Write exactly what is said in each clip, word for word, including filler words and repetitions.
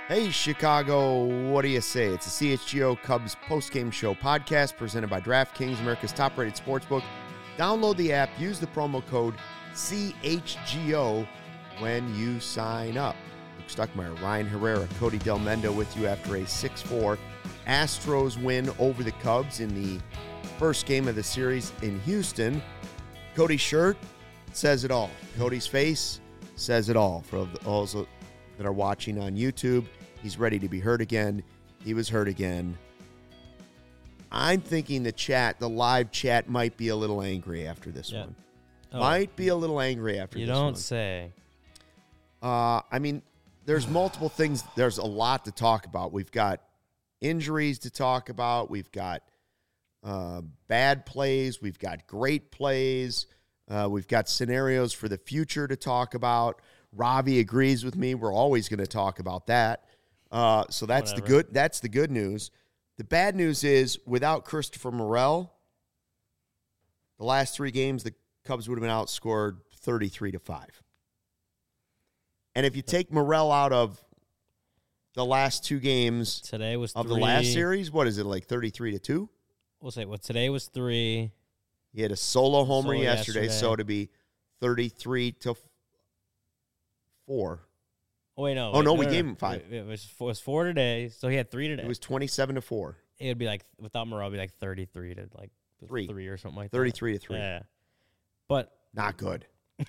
Hey, Chicago, what do you say? It's a C H G O Cubs postgame show podcast presented by DraftKings, America's top-rated sportsbook. Download the app, use the promo code C H G O when you sign up. Luke Stuckmeyer, Ryan Herrera, Cody Del Mendo with you after a six four Astros win over the Cubs in the first game of the series in Houston. Cody's shirt says it all. Cody's face says it all. For those that are watching on YouTube, he's ready to be hurt again. He was hurt again. I'm thinking the chat, the live chat, might be a little angry after this yeah. one. Oh. Might be a little angry after you this one. You don't say. Uh, I mean, there's multiple things. There's a lot to talk about. We've got injuries to talk about. We've got uh, bad plays. We've got great plays. Uh, we've got scenarios for the future to talk about. Ravi agrees with me. We're always going to talk about that. Uh, so that's Whatever. the good. That's the good news. The bad news is without Christopher Morel, the last three games the Cubs would have been outscored thirty-three to five. And if you take Morel out of the last two games today was of three. the last series, what is it, like thirty-three to two? We'll say, well, today was three. He had a solo homer Solo yesterday, yesterday. so to be thirty-three to four. Oh, wait, no. Oh, wait, no, no, we no, gave no. him five. It was, four, it was four today, so he had three today. It was twenty-seven to four. It would be like, without Morel, it would be like thirty-three to like Three. three or something like thirty-three that. to three. Yeah. But. Not good.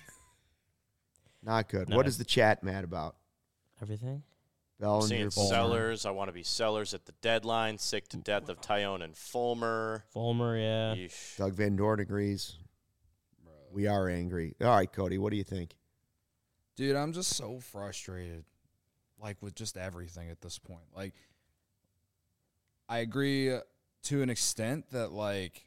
Not good. No. What is the chat mad about? Everything? Bellinger, Seeing Fulmer. sellers. I want to be sellers at the deadline. Sick to death of Tyone and Fulmer. Fulmer, yeah. Yeesh. Doug Van Dorn agrees. We are angry. All right, Cody, what do you think? Dude, I'm just so frustrated, like, with just everything at this point. Like, I agree to an extent that, like,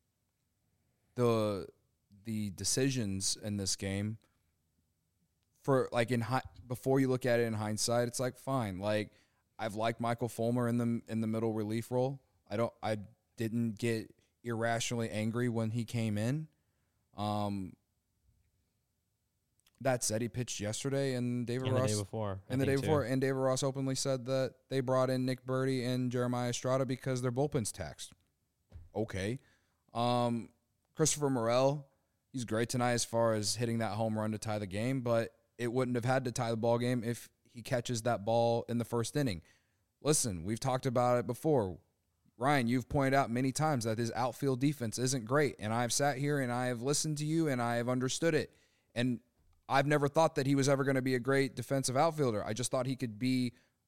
the the decisions in this game, for, like, in hi- before you look at it in hindsight, it's like, fine. Like, I've liked Michael Fulmer in the in the middle relief role. I don't, I didn't get irrationally angry when he came in. Um, that said, he pitched yesterday, and David And Ross the day before. I and the day think, too. before, and David Ross openly said that they brought in Nick Birdie and Jeremiah Estrada because their bullpen's taxed. Okay, um, Christopher Morel, he's great tonight as far as hitting that home run to tie the game, but it wouldn't have had to tie the ball game if he catches that ball in the first inning. Listen, we've talked about it before. Ryan, you've pointed out many times that his outfield defense isn't great, and I've sat here and I have listened to you and I have understood it. And I've never thought that he was ever going to be a great defensive outfielder. I just thought he could be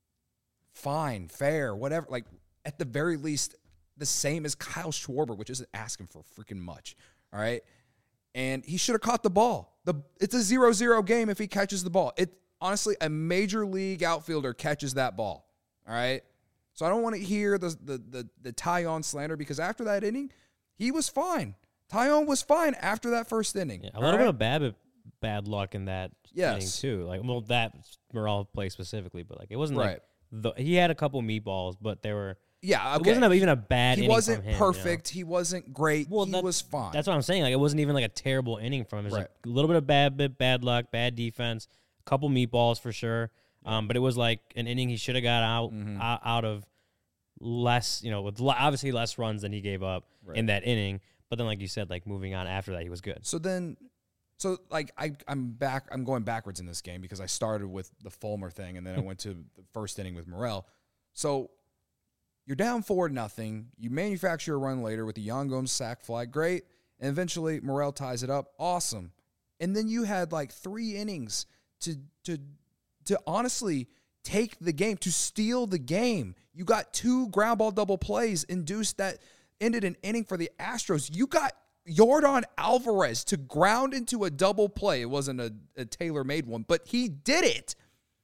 fine, fair, whatever. Like, at the very least, the same as Kyle Schwarber, which isn't asking for freaking much, all right? And he should have caught the ball. The It's a zero zero game if he catches the ball. It honestly, a major league outfielder catches that ball, all right? So I don't want to hear the the the, the Tyone slander, because after that inning, he was fine. Tyone was fine after that first inning. Yeah, a little right? bit of bad bad luck in that Yes. inning, too. Like, well, that Morel play specifically, but, like, it wasn't Right. like the, he had a couple meatballs, but they were. Yeah, okay. It wasn't even a bad He inning wasn't from him, perfect. He wasn't great. Well, he that- was fine. That's what I'm saying. Like, it wasn't even like a terrible inning from him. It was Right. like a little bit of bad, bit bad luck, bad defense, a couple meatballs for sure. Um, but it was like an inning he should have got out Mhm. out, out of less, you know, with l- obviously less runs than he gave up Right. in that inning. But then, like you said, like moving on after that, he was good. So then, so like I, I'm back. I'm going backwards in this game because I started with the Fulmer thing and then I went to the first inning with Morel. So you're down four nothing. You manufacture a run later with the Yan Gomes sac fly, great, and eventually Morel ties it up, awesome. And then you had like three innings to to to honestly take the game, to steal the game. You got two ground ball double plays induced that ended an inning for the Astros. You got Yordan Alvarez to ground into a double play. It wasn't a, a tailor-made one, but he did it.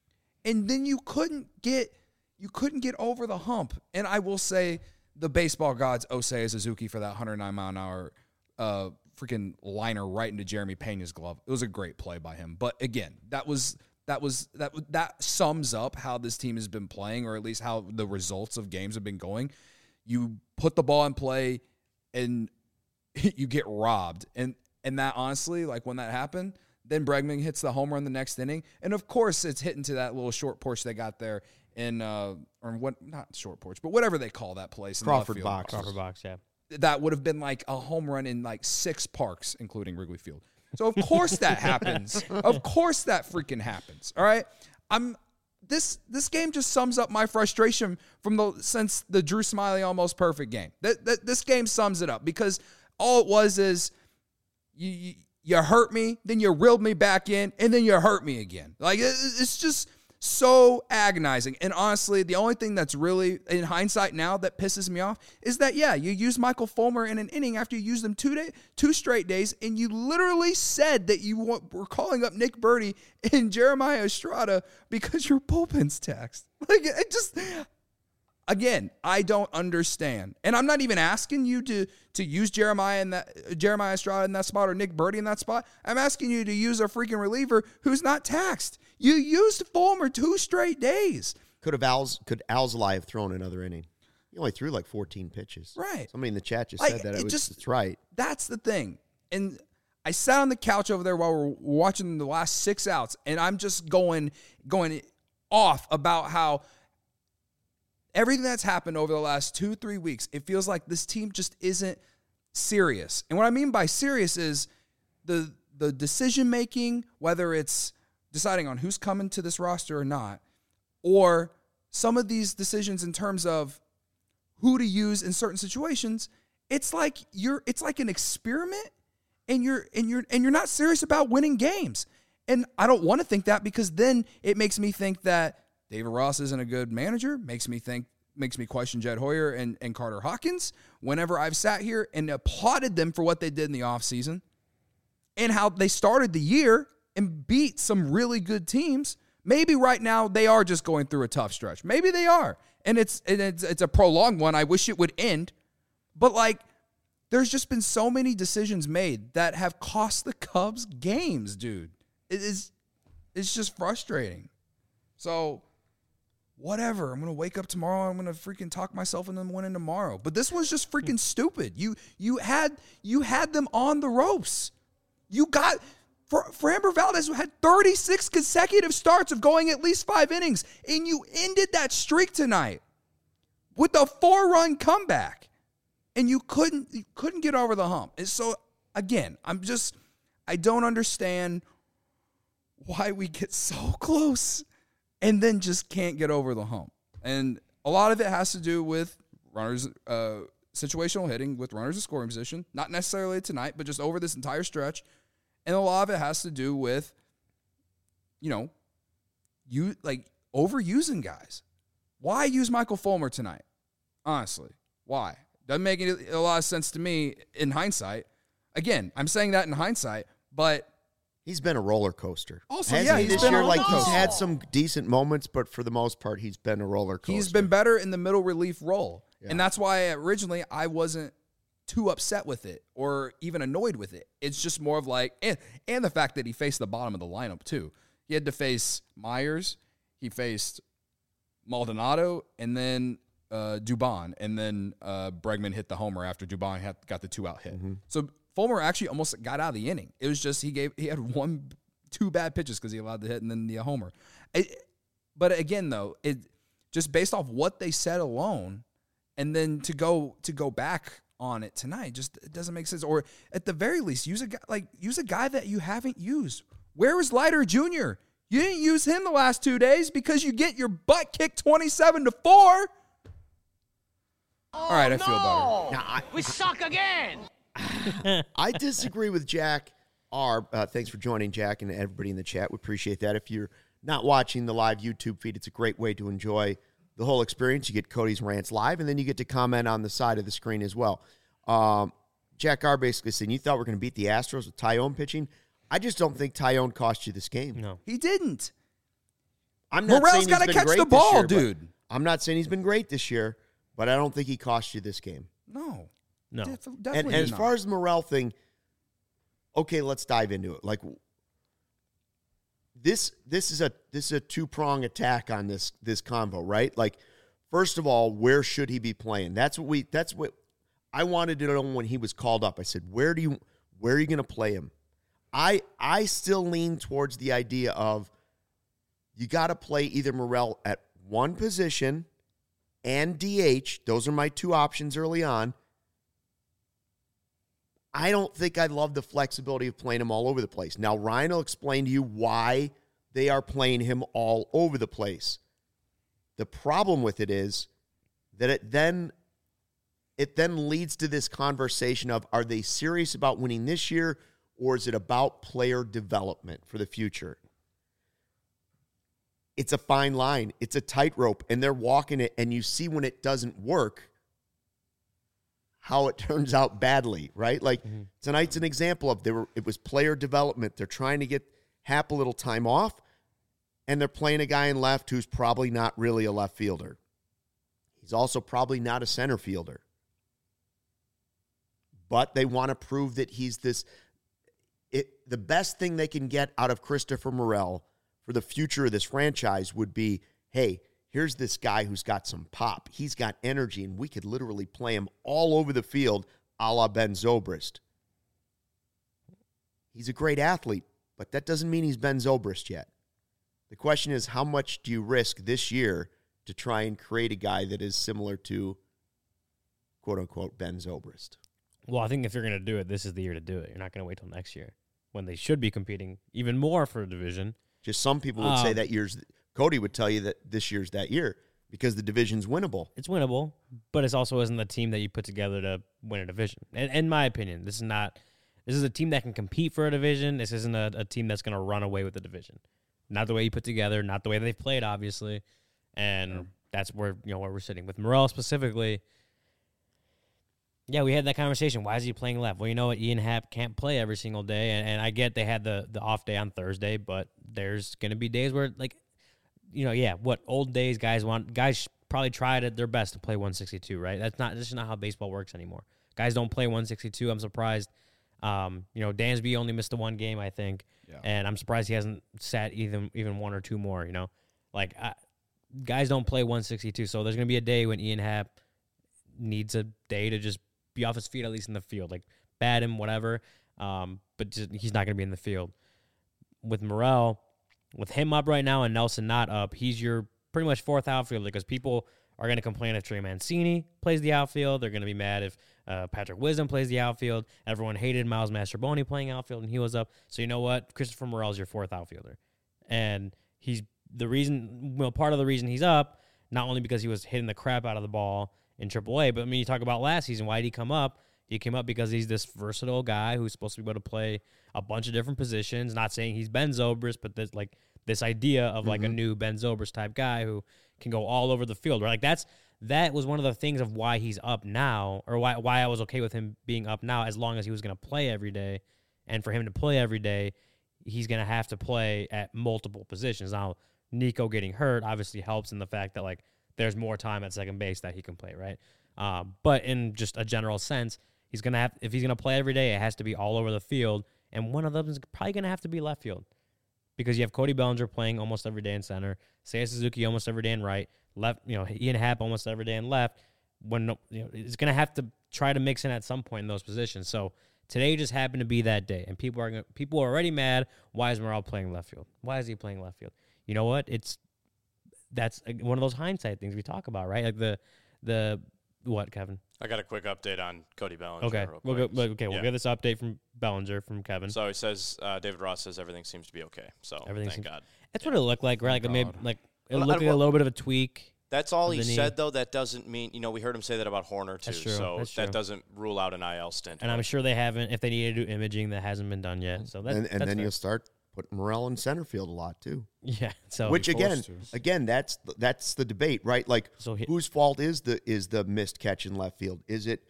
And then you couldn't get you couldn't get over the hump. And I will say the baseball gods Osei Suzuki for that one hundred nine mile an hour uh, freaking liner right into Jeremy Pena's glove. It was a great play by him. But again, that was that was that that sums up how this team has been playing, or at least how the results of games have been going. You put the ball in play and you get robbed. And and that honestly, like when that happened, then Bregman hits the home run the next inning. And of course it's hitting to that little short porch they got there. in uh, or what not short porch, but whatever they call that place. In Crawford left field. box. Crawford box, yeah. That would have been like a home run in like six parks, including Wrigley Field. So of course that happens. Of course that freaking happens. All right. I'm this this game just sums up my frustration from the since the Drew Smyly almost perfect game. That, that this game sums it up because all it was is you, you you hurt me, then you reeled me back in, and then you hurt me again. Like it, it's just so agonizing. And honestly, the only thing that's really, in hindsight now, that pisses me off is that, yeah, you used Michael Fulmer in an inning after you used them two day, two straight days, and you literally said that you were calling up Nick Birdie and Jeremiah Estrada because your bullpen's taxed. Like, it just... Again, I don't understand. And I'm not even asking you to to use Jeremiah in that Jeremiah Estrada in that spot or Nick Birdie in that spot. I'm asking you to use a freaking reliever who's not taxed. You used Fulmer two straight days. Could have Al's could Alzolay have thrown another inning? He only threw like fourteen pitches. Right. Somebody in the chat just Like, said that. it It was, just- it's right. That's the thing. And I sat on the couch over there while we're watching the last six outs, and I'm just going going off about how everything that's happened over the last two, three weeks, it feels like this team just isn't serious. And what I mean by serious is the the decision-making, whether it's deciding on who's coming to this roster or not, or some of these decisions in terms of who to use in certain situations, it's like you're it's like an experiment and you're and you're and you're not serious about winning games. And I don't want to think that because then it makes me think that David Ross isn't a good manager, makes me think, makes me question Jed Hoyer and, and Carter Hawkins whenever I've sat here and applauded them for what they did in the offseason and how they started the year and beat some really good teams. Maybe right now they are just going through a tough stretch. Maybe they are. And it's and it's it's a prolonged one. I wish it would end. But like there's just been so many decisions made that have cost the Cubs games, dude. It is it's just frustrating. So whatever. I'm going to wake up tomorrow. I'm going to freaking talk myself into winning tomorrow. But this was just freaking stupid. You you had you had them on the ropes. You got for Framber Valdez had thirty-six consecutive starts of going at least five innings, and you ended that streak tonight with a four-run comeback, and you couldn't you couldn't get over the hump. And so again, I'm just I don't understand why we get so close and then just can't get over the hump. And a lot of it has to do with runners, uh, situational hitting with runners in scoring position. Not necessarily tonight, but just over this entire stretch. And a lot of it has to do with, you know, you like overusing guys. Why use Michael Fulmer tonight? Honestly, why? Doesn't make any, a lot of sense to me in hindsight. Again, I'm saying that in hindsight, but He's been a roller coaster. Also, Hasn't yeah, he he's this been year, a- like no. he's had some decent moments, but for the most part, he's been a roller coaster. he's been better in the middle relief role. Yeah. And that's why originally I wasn't too upset with it or even annoyed with it. It's just more of like, and, and the fact that he faced the bottom of the lineup too. He had to face Myers, he faced Maldonado, and then uh, Dubon, and then uh, Bregman hit the homer after Dubon had, got the two-out hit. Mm-hmm. So Fulmer actually almost got out of the inning. It was just he gave he had one, two bad pitches because he allowed the hit and then the homer. It, but again, though, it just based off what they said alone, and then to go to go back on it tonight, just it doesn't make sense. Or at the very least, use a guy like use a guy that you haven't used. Where was Leiter Junior? You didn't use him the last two days because you get your butt kicked twenty-seven to four. All right, I feel better. Now, I, We suck again. I disagree with Jack R. Uh, thanks for joining, Jack, and everybody in the chat. We appreciate that. If you're not watching the live YouTube feed, it's a great way to enjoy the whole experience. You get Cody's rants live, and then you get to comment on the side of the screen as well. Um, Jack R. basically saying, you thought we are going to beat the Astros with Tyone pitching? I just don't think Tyone cost you this game. No. He didn't. I'm not Morel's saying he's gotta been catch great the this ball, year, but- dude. I'm not saying he's been great this year, but I don't think he cost you this game. No. No. Def- And, definitely and as not. far as the Morel thing, okay, let's dive into it. Like this, this is a this is a two prong attack on this this convo, right? Like, first of all, where should he be playing? That's what we. That's what I wanted to know when he was called up. I said, where do you where are you going to play him? I I still lean towards the idea of you got to play either Morel at one position and D H. Those are my two options early on. I don't think I love the flexibility of playing him all over the place. Now, Ryan will explain to you why they are playing him all over the place. The problem with it is that it then it then leads to this conversation of, are they serious about winning this year, or is it about player development for the future? It's a fine line. It's a tightrope, and they're walking it, and you see when it doesn't work how it turns out badly, right? Like mm-hmm. tonight's an example of they were, it was player development. They're trying to get Happ a little time off, and they're playing a guy in left who's probably not really a left fielder. He's also probably not a center fielder. But they want to prove that he's this. It, the best thing they can get out of Christopher Morel for the future of this franchise would be, hey, here's this guy who's got some pop. He's got energy, and we could literally play him all over the field a la Ben Zobrist. He's a great athlete, but that doesn't mean he's Ben Zobrist yet. The question is, how much do you risk this year to try and create a guy that is similar to, quote-unquote, Ben Zobrist? Well, I think if you're going to do it, this is the year to do it. You're not going to wait till next year when they should be competing even more for a division. Just some people would um, say that year's – Cody would tell you that this year's that year because the division's winnable. It's winnable, but it also isn't the team that you put together to win a division. In, in my opinion, this is not – this is a team that can compete for a division. This isn't a, a team that's going to run away with the division. Not the way you put together, not the way they've played, obviously. And yeah. that's where, you know, where we're sitting. With Morel specifically – yeah, we had that conversation. Why is he playing left? Well, you know what? Ian Happ can't play every single day, and, and I get they had the, the off day on Thursday, but there's going to be days where, like, you know, yeah, what old days guys want, guys probably tried at their best to play one sixty-two, right? That's not, that's just not how baseball works anymore. Guys don't play one sixty-two. I'm surprised. Um, you know, Dansby only missed the one game, I think, yeah. and I'm surprised he hasn't sat even even one or two more, you know? Like, I, guys don't play one sixty-two, so there's going to be a day when Ian Happ needs a day to just be off his feet, at least in the field, like bat him, whatever. Um, but just, he's not going to be in the field. With Morel, with him up right now and Nelson not up, he's your pretty much fourth outfielder because people are going to complain if Trey Mancini plays the outfield. They're going to be mad if uh, Patrick Wisdom plays the outfield. Everyone hated Miles Mastrobuoni playing outfield, and he was up. So you know what? Christopher Morel is your fourth outfielder. And he's the reason, well, part of the reason he's up, not only because he was hitting the crap out of the ball in triple A, but I mean, you talk about last season, why did he come up? He came up because he's this versatile guy who's supposed to be able to play a bunch of different positions. Not saying he's Ben Zobrist, but there's like this idea of like mm-hmm. a new Ben Zobrist type guy who can go all over the field. Right? Like that's that was one of the things of why he's up now, or why why I was okay with him being up now, as long as he was going to play every day. And for him to play every day, he's going to have to play at multiple positions. Now, Nico getting hurt obviously helps in the fact that like there's more time at second base that he can play, right? Um, but in just a general sense, he's gonna have if he's gonna play every day, it has to be all over the field, and one of them is probably gonna have to be left field because you have Cody Bellinger playing almost every day in center, Seiya Suzuki almost every day in right, left, you know, Ian Happ almost every day in left. When you know, it's gonna have to try to mix in at some point in those positions. So today just happened to be that day, and people are gonna, people are already mad. Why is Morel playing left field? Why is he playing left field? You know what? It's That's one of those hindsight things we talk about, right? Like the, the what, Kevin? I got a quick update on Cody Bellinger. Okay, real we'll quick. go, okay, we'll yeah. get this update from Bellinger from Kevin. So he says uh, David Ross says everything seems to be okay. So everything thank seems, God. That's yeah. what it looked like, right? Like maybe like it well, looked like a little bit of a tweak. That's all he knee. said, though. That doesn't mean, you know, we heard him say that about Horner too. That's true. So That's that true. doesn't rule out an I L stint. And I'm sure they haven't. If they need to do imaging, that hasn't been done yet. So that, and, and that's then fair. you'll start putting Morel in center field a lot too. Yeah. So which again, to. again, that's the, that's the debate, right? Like, So he- whose fault is the is the missed catch in left field? Is it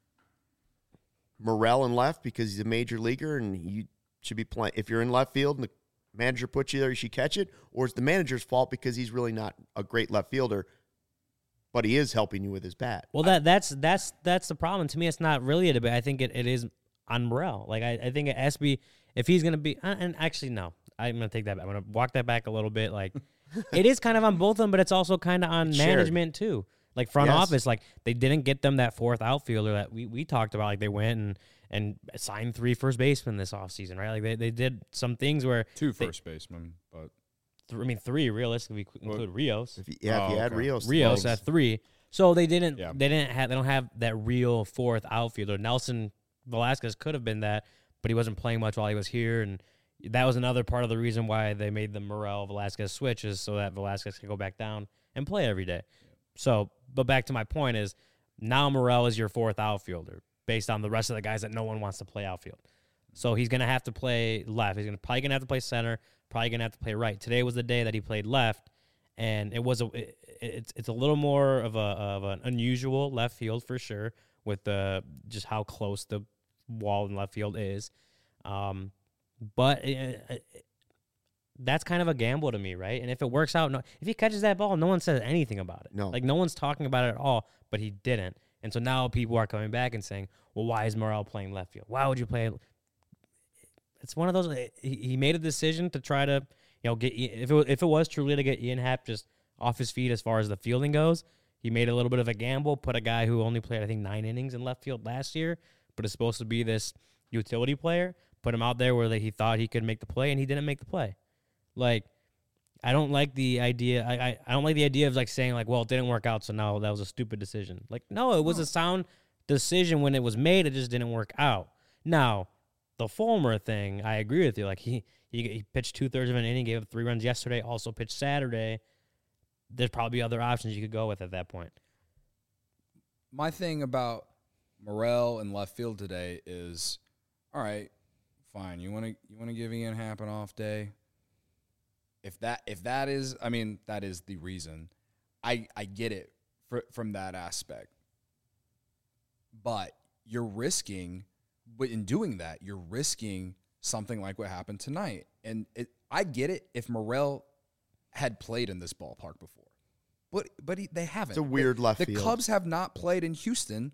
Morel in left because he's a major leaguer and you should be playing? If you're in left field and the manager puts you there, you should catch it, or is the manager's fault because he's really not a great left fielder, but he is helping you with his bat? Well, that that's that's that's the problem. To me, it's not really a debate. I think it, it is on Morel. Like I, I think it has to be if he's going to be. Uh, and actually, no, I'm going to take that back. I'm going to walk that back a little bit. Like it is kind of on both of them, but it's also kind of on Shared. management too. Like front Yes. office, like they didn't get them that fourth outfielder that we, we talked about. Like they went and, and signed three first basemen this offseason, right? Like they, they did some things where Two they, first basemen, but th- I mean, three realistically if we include Rios. If you, yeah, if you Oh, add okay. Rios, Rios to at three. So they didn't. Yeah. They didn't have. They don't have that real fourth outfielder. Nelson Velasquez could have been that, but he wasn't playing much while he was here, and that was another part of the reason why they made the Morel Velasquez switch is so that Velasquez could go back down and play every day. So, but back to my point is now Morel is your fourth outfielder based on the rest of the guys that no one wants to play outfield. So he's gonna have to play left. He's gonna probably gonna have to play center. Probably gonna have to play right. Today was the day that he played left. And it was a it, it's it's a little more of a of an unusual left field for sure with the just how close the wall in left field is, um, but it, it, that's kind of a gamble to me, right? And if it works out, no, if he catches that ball, no one says anything about it. No. Like no one's talking about it at all. But he didn't, and so now people are coming back and saying, "Well, why is Morel playing left field? Why would you play?" It's one of those. He, he made a decision to try to. You know, get if it if it was truly to get Ian Happ just off his feet as far as the fielding goes, he made a little bit of a gamble. Put a guy who only played I think nine innings in left field last year, but is supposed to be this utility player. Put him out there where like, he thought he could make the play, and he didn't make the play. Like, I don't like the idea. I, I I don't like the idea of like saying like, well, it didn't work out, so now that was a stupid decision. Like, no, it was a sound decision when it was made. It just didn't work out. Now, the Fulmer thing, I agree with you. Like he. He, he pitched two-thirds of an inning, gave up three runs yesterday, also pitched Saturday. There's probably other options you could go with at that point. My thing about Morel and left field today is, all right, fine. You want to you want to give Ian Happ an off day? If that if that is, I mean, that is the reason. I I get it for, from that aspect. But you're risking, but in doing that, you're risking something like what happened tonight. And it, I get it if Morel had played in this ballpark before. But but he, they haven't. It's a weird the, left the field. The Cubs have not played in Houston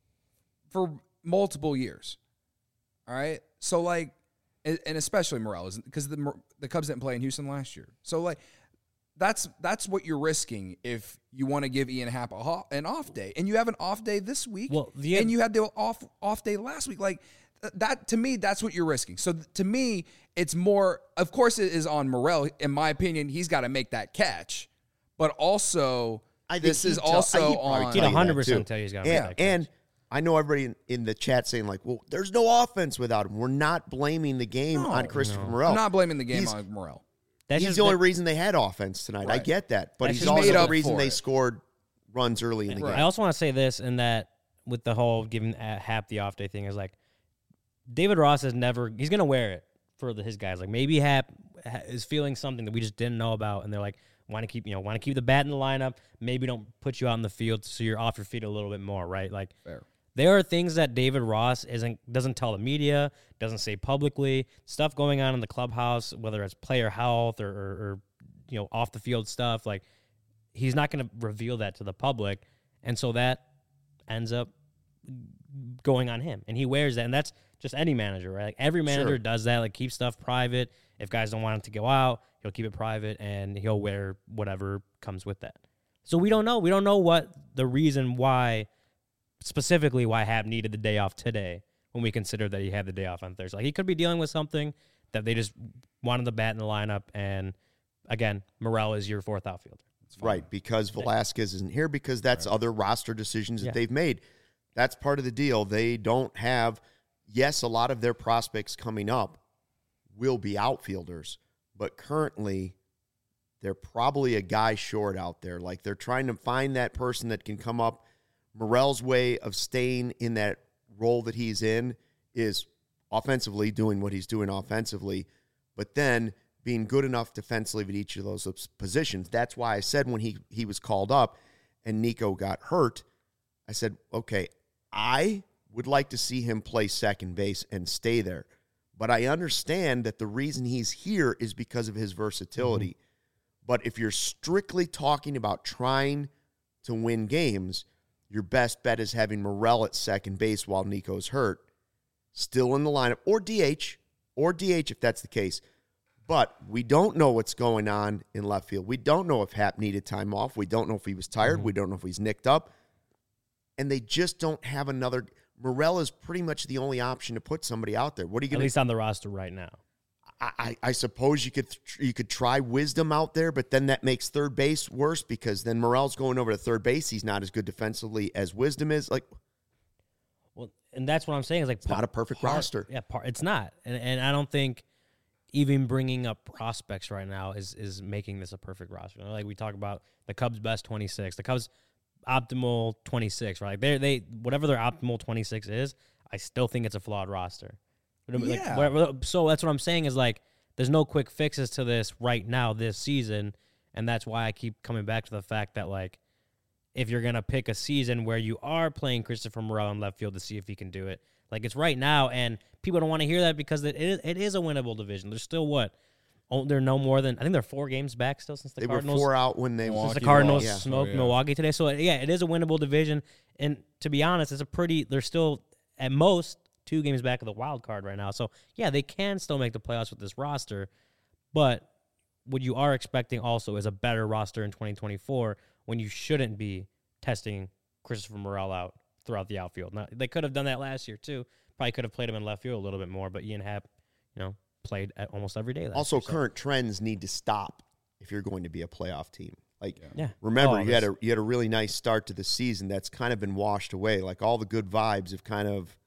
for multiple years. All right? So, like, and, and especially Morel, because the the Cubs didn't play in Houston last year. So, like, that's that's what you're risking if you want to give Ian Happ a ho- an off day. And you have an off day this week, Well, the- and you had the off off day last week. Like, that, to me, that's what you're risking. So, to me, it's more, of course, it is on Morel. In my opinion, he's got to make that catch. But also, I think this he'd is tell- also he'd probably on. He'd tell you one hundred that, percent too. tell you he's got to And, make that catch. and I know everybody in, in the chat saying, like, well, there's no offense without him. We're not blaming the game No, on Christopher no. Morel. I'm not blaming the game He's- on Morel. That's he's just the only that- reason they had offense tonight. I Right. get that. But That's he's just also made the up reason for they it. scored runs early in the I game. also want to say this, and that with the whole giving uh, Hap the off day thing is like, David Ross has never, he's going to wear it for the, his guys. Like maybe Hap ha- is feeling something that we just didn't know about, and they're like, want to keep, you know, want to keep the bat in the lineup. Maybe don't put you out in the field so you're off your feet a little bit more, right? Like, Fair. there are things that David Ross isn't doesn't tell the media, doesn't say publicly. Stuff going on in the clubhouse, whether it's player health or, or, or you know off the field stuff. Like he's not going to reveal that to the public, and so that ends up going on him, and he wears that, and that's just any manager, right? Like every manager Sure. does that. Like keep stuff private. If guys don't want him to go out, he'll keep it private, and he'll wear whatever comes with that. So we don't know. We don't know what the reason why. Specifically why Hap needed the day off today when we consider that he had the day off on Thursday. Like he could be dealing with something that they just wanted the bat in the lineup. And again, Morel is your fourth outfielder. Right, because Velasquez isn't here, because that's other roster decisions that Yeah. they've made. That's part of the deal. They don't have, yes, a lot of their prospects coming up will be outfielders, but currently they're probably a guy short out there. Like they're trying to find that person that can come up. Morel's way of staying in that role that he's in is offensively doing what he's doing offensively, but then being good enough defensively at each of those positions. That's why I said when he, he was called up and Nico got hurt, I said, okay, I would like to see him play second base and stay there. But I understand that the reason he's here is because of his versatility. Mm-hmm. But if you're strictly talking about trying to win games, your best bet is having Morel at second base while Nico's hurt, still in the lineup, or D H, or D H if that's the case. But we don't know what's going on in left field. We don't know if Hap needed time off. We don't know if he was tired. Mm-hmm. We don't know if he's nicked up. And they just don't have another. Morel is pretty much the only option to put somebody out there. What are you At going to least on the roster right now. I, I suppose you could you could try Wisdom out there, but then that makes third base worse because then Morel's going over to third base. He's not as good defensively as Wisdom is. Like, well, and that's what I'm saying is like it's not a perfect part, roster. Yeah, part, it's not, and and I don't think even bringing up prospects right now is is making this a perfect roster. Like we talk about the Cubs' best twenty-six, the Cubs' optimal twenty-six, right? They they whatever their optimal twenty-six is, I still think it's a flawed roster. Like, Yeah. whatever, so that's what I'm saying is like there's no quick fixes to this right now this season, and that's why I keep coming back to the fact that like if you're gonna pick a season where you are playing Christopher Morel in left field to see if he can do it, like it's right now, and people don't want to hear that because it is it is a winnable division. There's still what oh, they're no more than I think they're four games back still since the They Cardinals were four out when they since Milwaukee the Cardinals lost. smoked Oh, yeah. Milwaukee today. So yeah, it is a winnable division, and to be honest, it's a pretty. They're still at most two games back of the wild card right now. So, yeah, they can still make the playoffs with this roster, but what you are expecting also is a better roster in twenty twenty-four when you shouldn't be testing Christopher Morel out throughout the outfield. Now, they could have done that last year, too. Probably could have played him in left field a little bit more, but Ian Happ, you know, played at almost every day last Also, year. so- current trends need to stop if you're going to be a playoff team. Like, Yeah. remember, Oh, you had this- a you had a really nice start to the season that's kind of been washed away. Like, all the good vibes have kind of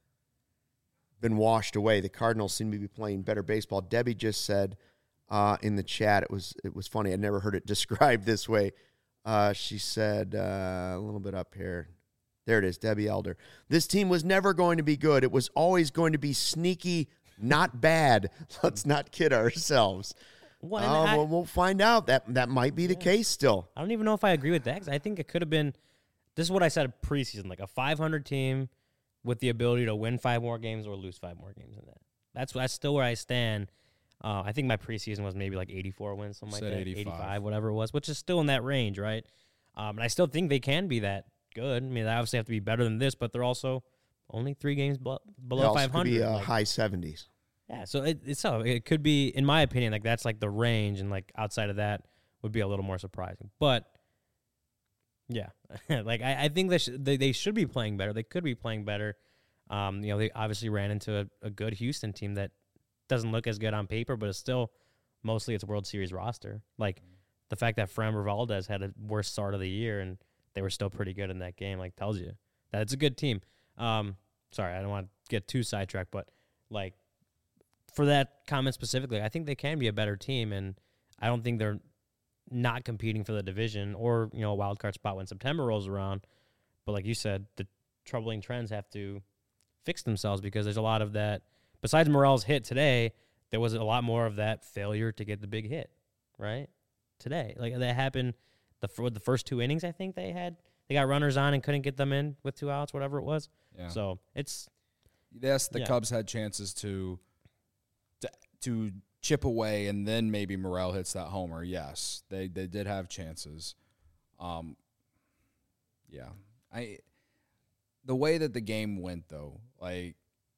been washed away. The Cardinals seem to be playing better baseball. Debbie just said uh, in the chat, it was it was funny. I'd never heard it described this way. Uh, she said uh, a little bit up here. There it is, Debbie Elder. This team was never going to be good. It was always going to be sneaky, not bad. Let's not kid ourselves. Well, and Uh, I- well, we'll find out. That that might be the case still. I don't even know if I agree with that 'cause I think it could have been. This is what I said preseason, like a five hundred team with the ability to win five more games or lose five more games in that. That's that's still where I stand. Uh, I think my preseason was maybe like eighty-four wins, something Said like that, eighty-five. eighty-five, whatever it was, which is still in that range, right? Um, and I still think they can be that good. I mean, they obviously have to be better than this, but they're also only three games bel- It below also five could hundred. be uh, like- high seventies. yeah, so it, it's so it could be, in my opinion, like that's like the range, and like outside of that would be a little more surprising. But yeah, like I, I think they, sh- they they should be playing better. They could be playing better. Um, you know, they obviously ran into a, a good Houston team that doesn't look as good on paper, but it's still mostly its World Series roster. Like the fact that Framber Valdez had a worst start of the year and they were still pretty good in that game, like tells you that it's a good team. Um, sorry, I don't want to get too sidetracked, but like for that comment specifically, I think they can be a better team, and I don't think they're not competing for the division or, you know, a wild card spot when September rolls around. But like you said, the troubling trends have to fix themselves because there's a lot of that. Besides Morel's hit today, there was a lot more of that failure to get the big hit, right? Today. Like that happened the for the first two innings, I think they had. They got runners on and couldn't get them in with two outs, whatever it was. Yeah. So it's Yes, the Yeah. Cubs had chances to, to to chip away, and then maybe Morel hits that homer. Yes, they they did have chances. Um, yeah, I the way that the game went though, like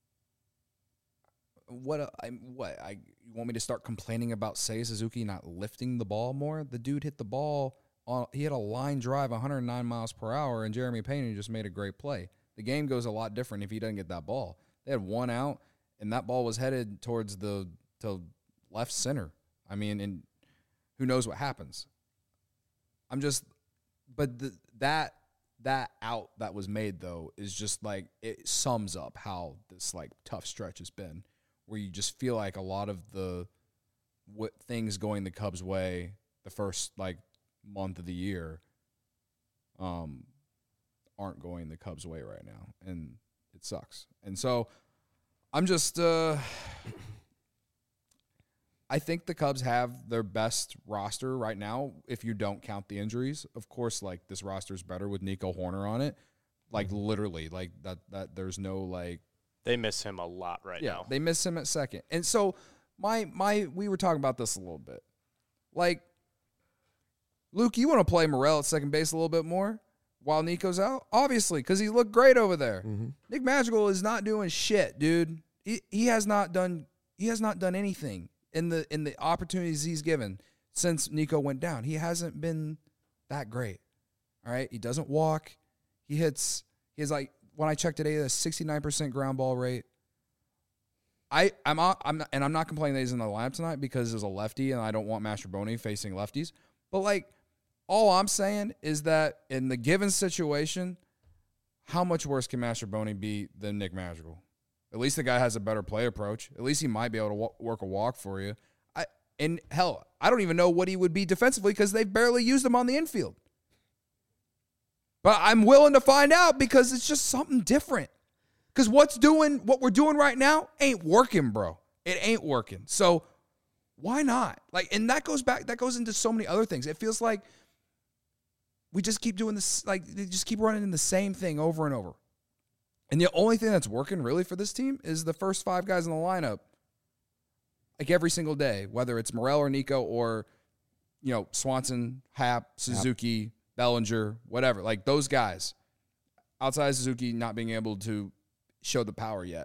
what a- I what I you want me to start complaining about Seiya Suzuki not lifting the ball more? The dude hit the ball on he had a line drive one hundred nine miles per hour, and Jeremy Pena just made a great play. The game goes a lot different if he doesn't get that ball. They had one out, and that ball was headed towards the to left center. I mean, and who knows what happens? I'm just, but the, that that out that was made though is just like it sums up how this like tough stretch has been, where you just feel like a lot of the what things going the Cubs' way the first like month of the year, um, aren't going the Cubs' way right now, and it sucks. And so I'm just, uh, I think the Cubs have their best roster right now if you don't count the injuries. Of course, like this roster is better with Nico Horner on it. Like literally, like that. That there's no like. They miss him a lot right Yeah, now. they miss him at second. And so my my we were talking about this a little bit. Like, Luke, you want to play Morel at second base a little bit more while Nico's out? Obviously, because he looked great over there. Mm-hmm. Nick Madrigal is not doing shit, dude. He he has not done he has not done anything in the in the opportunities he's given since Nico went down. He hasn't been that great. All right, he doesn't walk. He hits. He has like when I checked today, a sixty-nine percent ground ball rate. I I'm on- I'm not, and I'm not complaining that he's in the lineup tonight because there's a lefty and I don't want Mastrobuoni facing lefties. But like, all I'm saying is that in the given situation, how much worse can Mastrobuoni be than Nick Madrigal? At least the guy has a better play approach. At least he might be able to w- work a walk for you. I and hell, I don't even know what he would be defensively because they've barely used him on the infield. But I'm willing to find out because it's just something different. Because what's doing what we're doing right now ain't working, bro. It ain't working. So why not? Like, and that goes back. That goes into so many other things. It feels like we just keep doing this. Like they just keep running in the same thing over and over. And the only thing that's working really for this team is the first five guys in the lineup. Like every single day, whether it's Morel or Nico or you know Swanson, Happ, Suzuki, yep. Bellinger, whatever. Like those guys. Outside Suzuki not being able to show the power yet.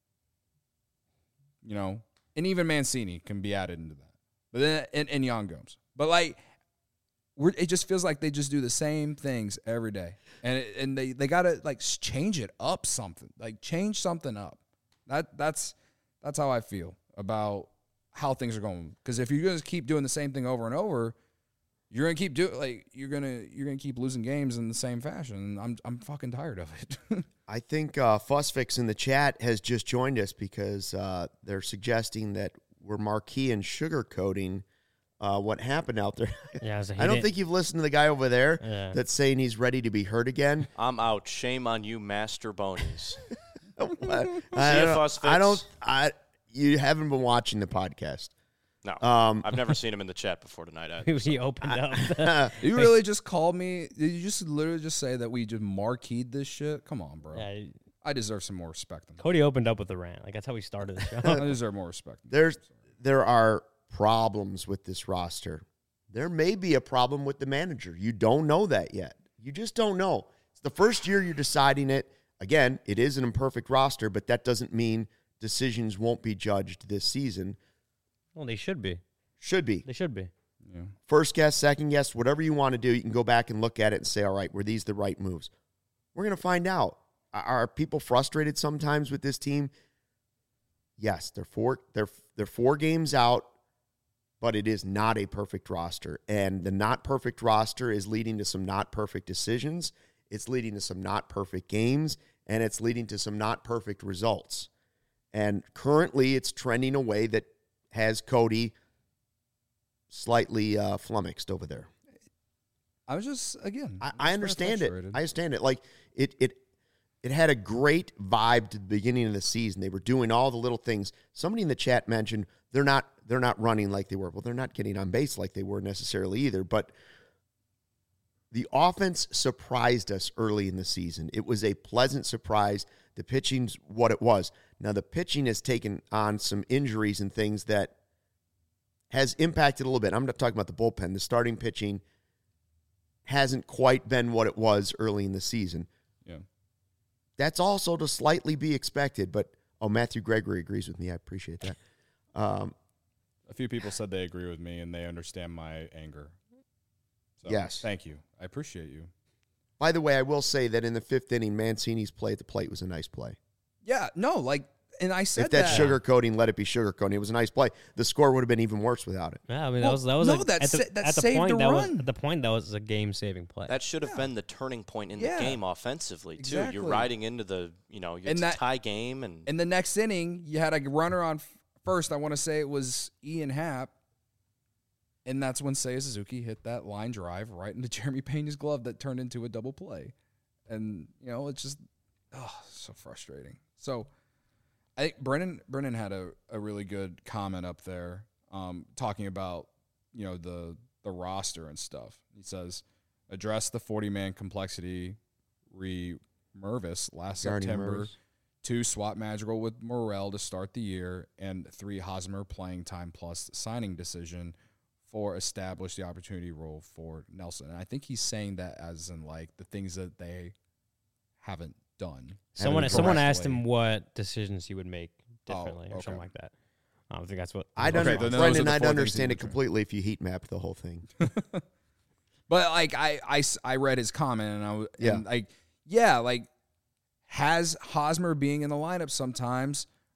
You know, and even Mancini can be added into that. But then and, and Yan Gomes. But like we're, it just feels like they just do the same things every day. And it, and they, they got to like change it up something. Like change something up. That that's that's how I feel about how things are going. Cuz if you're going to keep doing the same thing over and over, you're going to keep doing like you're going to you're going to keep losing games in the same fashion. And I'm I'm fucking tired of it. I think uh, Fussfix in the chat has just joined us because uh, they're suggesting that we're marquee and sugarcoating uh, what happened out there. Yeah, so I don't think you've listened to the guy over there yeah. that's saying he's ready to be hurt again. I'm out. Shame on you, Master Bonies. I, I, See I, you, don't, Fussfix. I don't. I you haven't been watching the podcast. No, Um, I've never seen him in the chat before tonight. I, he opened up. You really just called me? Did you just literally just say that we just marqueed this shit? Come on, bro. Yeah, I deserve some more respect than that. Cody opened up with the rant. Like that's how we started the show. I deserve more respect. There's there are problems with this roster. There may be a problem with the manager. You don't know that yet. You just don't know. It's the first year you're deciding it. Again, it is an imperfect roster, but that doesn't mean decisions won't be judged this season. Well, they should be. Should be. They should be. Yeah. First guess, second guess, whatever you want to do, you can go back and look at it and say, all right, were these the right moves? We're going to find out. Are people frustrated sometimes with this team? Yes, they're four, they're, they're four games out, but it is not a perfect roster. And the not perfect roster is leading to some not perfect decisions. It's leading to some not perfect games, and it's leading to some not perfect results. And currently it's trending a way that has Cody slightly uh, flummoxed over there. I was just, again. I, was I understand it. frustrated. I understand it. Like, it it it had a great vibe to the beginning of the season. They were doing all the little things. Somebody in the chat mentioned they're not they're not running like they were. Well, they're not getting on base like they were necessarily either. But the offense surprised us early in the season. It was a pleasant surprise. The pitching's what it was. Now, the pitching has taken on some injuries and things that has impacted a little bit. I'm not talking about the bullpen. The starting pitching hasn't quite been what it was early in the season. Yeah. That's also to slightly be expected. But, oh, Matthew Gregory agrees with me. I appreciate that. Um, A few people said they agree with me and they understand my anger. So, Yes. Thank you. I appreciate you. by the way, I will say that in the fifth inning, Mancini's play at the plate was a nice play. Yeah, no, like, and I said If that's that. sugarcoating, let it be sugarcoating. It was a nice play. The score would have been even worse without it. Yeah, I mean Well, that was that was no, a, that at the, sa- that at the saved point the that was run. at the point that was a game saving play. That should have Yeah. been the turning point in Yeah. the game offensively too. Exactly. You're riding into the, you know, it's And that- a tie game, and In the next inning, you had a runner on f- first. I want to say it was Ian Happ. And that's when Seiya Suzuki hit that line drive right into Jeremy Pena's glove that turned into a double play. And, you know, it's just, oh, so frustrating. So I think Brennan Brennan had a, a really good comment up there um, talking about, you know, the the roster and stuff. He says, address the forty-man complexity re Mervis last Guardian September. Mervis. Two, swap Madrigal with Morel to start the year. And three, Hosmer playing time plus signing decision for establish the opportunity role for Nelson. And I think he's saying that as in, like, the things that they haven't done. someone Haven't someone asked correctly. him what decisions he would make Oh, differently or okay. something like that. I don't think that's what. I'd Okay, under- then those are Brendan, the I'd four things understand he it would try. completely if you heat mapped the whole thing. But, like, I, I, s- I read his comment, and I was, Yeah. and, like, yeah, like, has Hosmer being in the lineup sometimes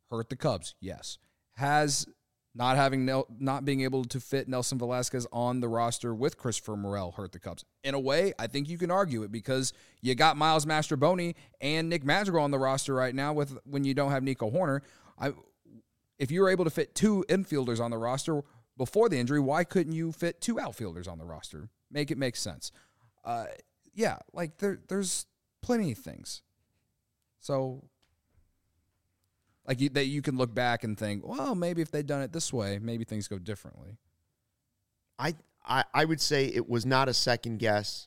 hurt the Cubs? Yes. Has not having Nel- not being able to fit Nelson Velasquez on the roster with Christopher Morel hurt the Cubs? In a way, I think you can argue it because you got Miles Mastroboni and Nick Madrigal on the roster right now with when you don't have Nico Hoerner. I, if you were able to fit two infielders on the roster before the injury, why couldn't you fit two outfielders on the roster? Make it make sense. Uh, yeah, like there, there's plenty of things. So, like you, that you can look back and think, well, maybe if they'd done it this way, maybe things go differently. I, I I would say it was not a second guess.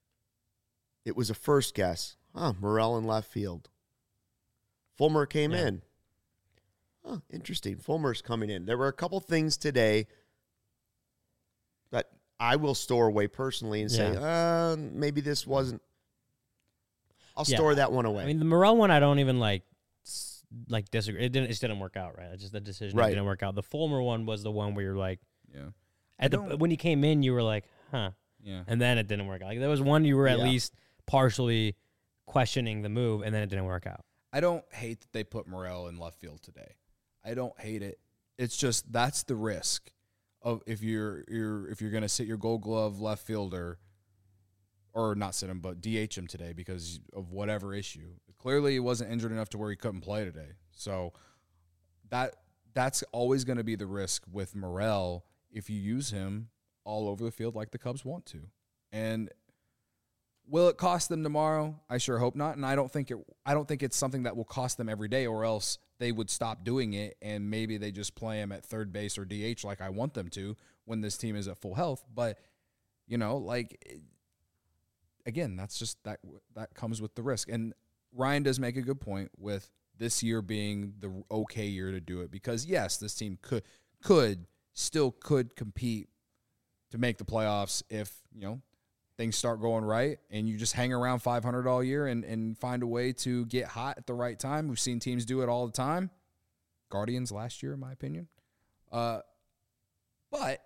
It was a first guess. Huh, Morel in left field. Fulmer came Yeah. in. Huh, interesting. Fulmer's coming in. There were a couple things today that I will store away personally and say, uh, maybe this wasn't. I'll Yeah. store that one away. I mean, the Morel one, I don't even like s- like disagree. It didn't. It just didn't work out, right? It's just the decision Right. didn't work out. The Fulmer one was the one where you're like, Yeah. at the, don't- when you came in, you were like, huh, Yeah. and then it didn't work out. Like there was one you were at Yeah. least partially questioning the move, and then it didn't work out. I don't hate that they put Morel in left field today. I don't hate it. It's just that's the risk of if you're you're if you're gonna sit your Gold Glove left fielder, or not sit him, but D H him today because of whatever issue. Clearly, he wasn't injured enough to where he couldn't play today. So that that's always going to be the risk with Morel if you use him all over the field like the Cubs want to. And will it cost them tomorrow? I sure hope not. And I don't think it I don't think it's something that will cost them every day, or else they would stop doing it and maybe they just play him at third base or D H like I want them to when this team is at full health. But you know, like it, again, that's just that that comes with the risk. And Ryan does make a good point with this year being the okay year to do it because yes, this team could could still could compete to make the playoffs if, you know, things start going right and you just hang around five hundred all year and, and find a way to get hot at the right time. We've seen teams do it all the time. Guardians last year, in my opinion. Uh, but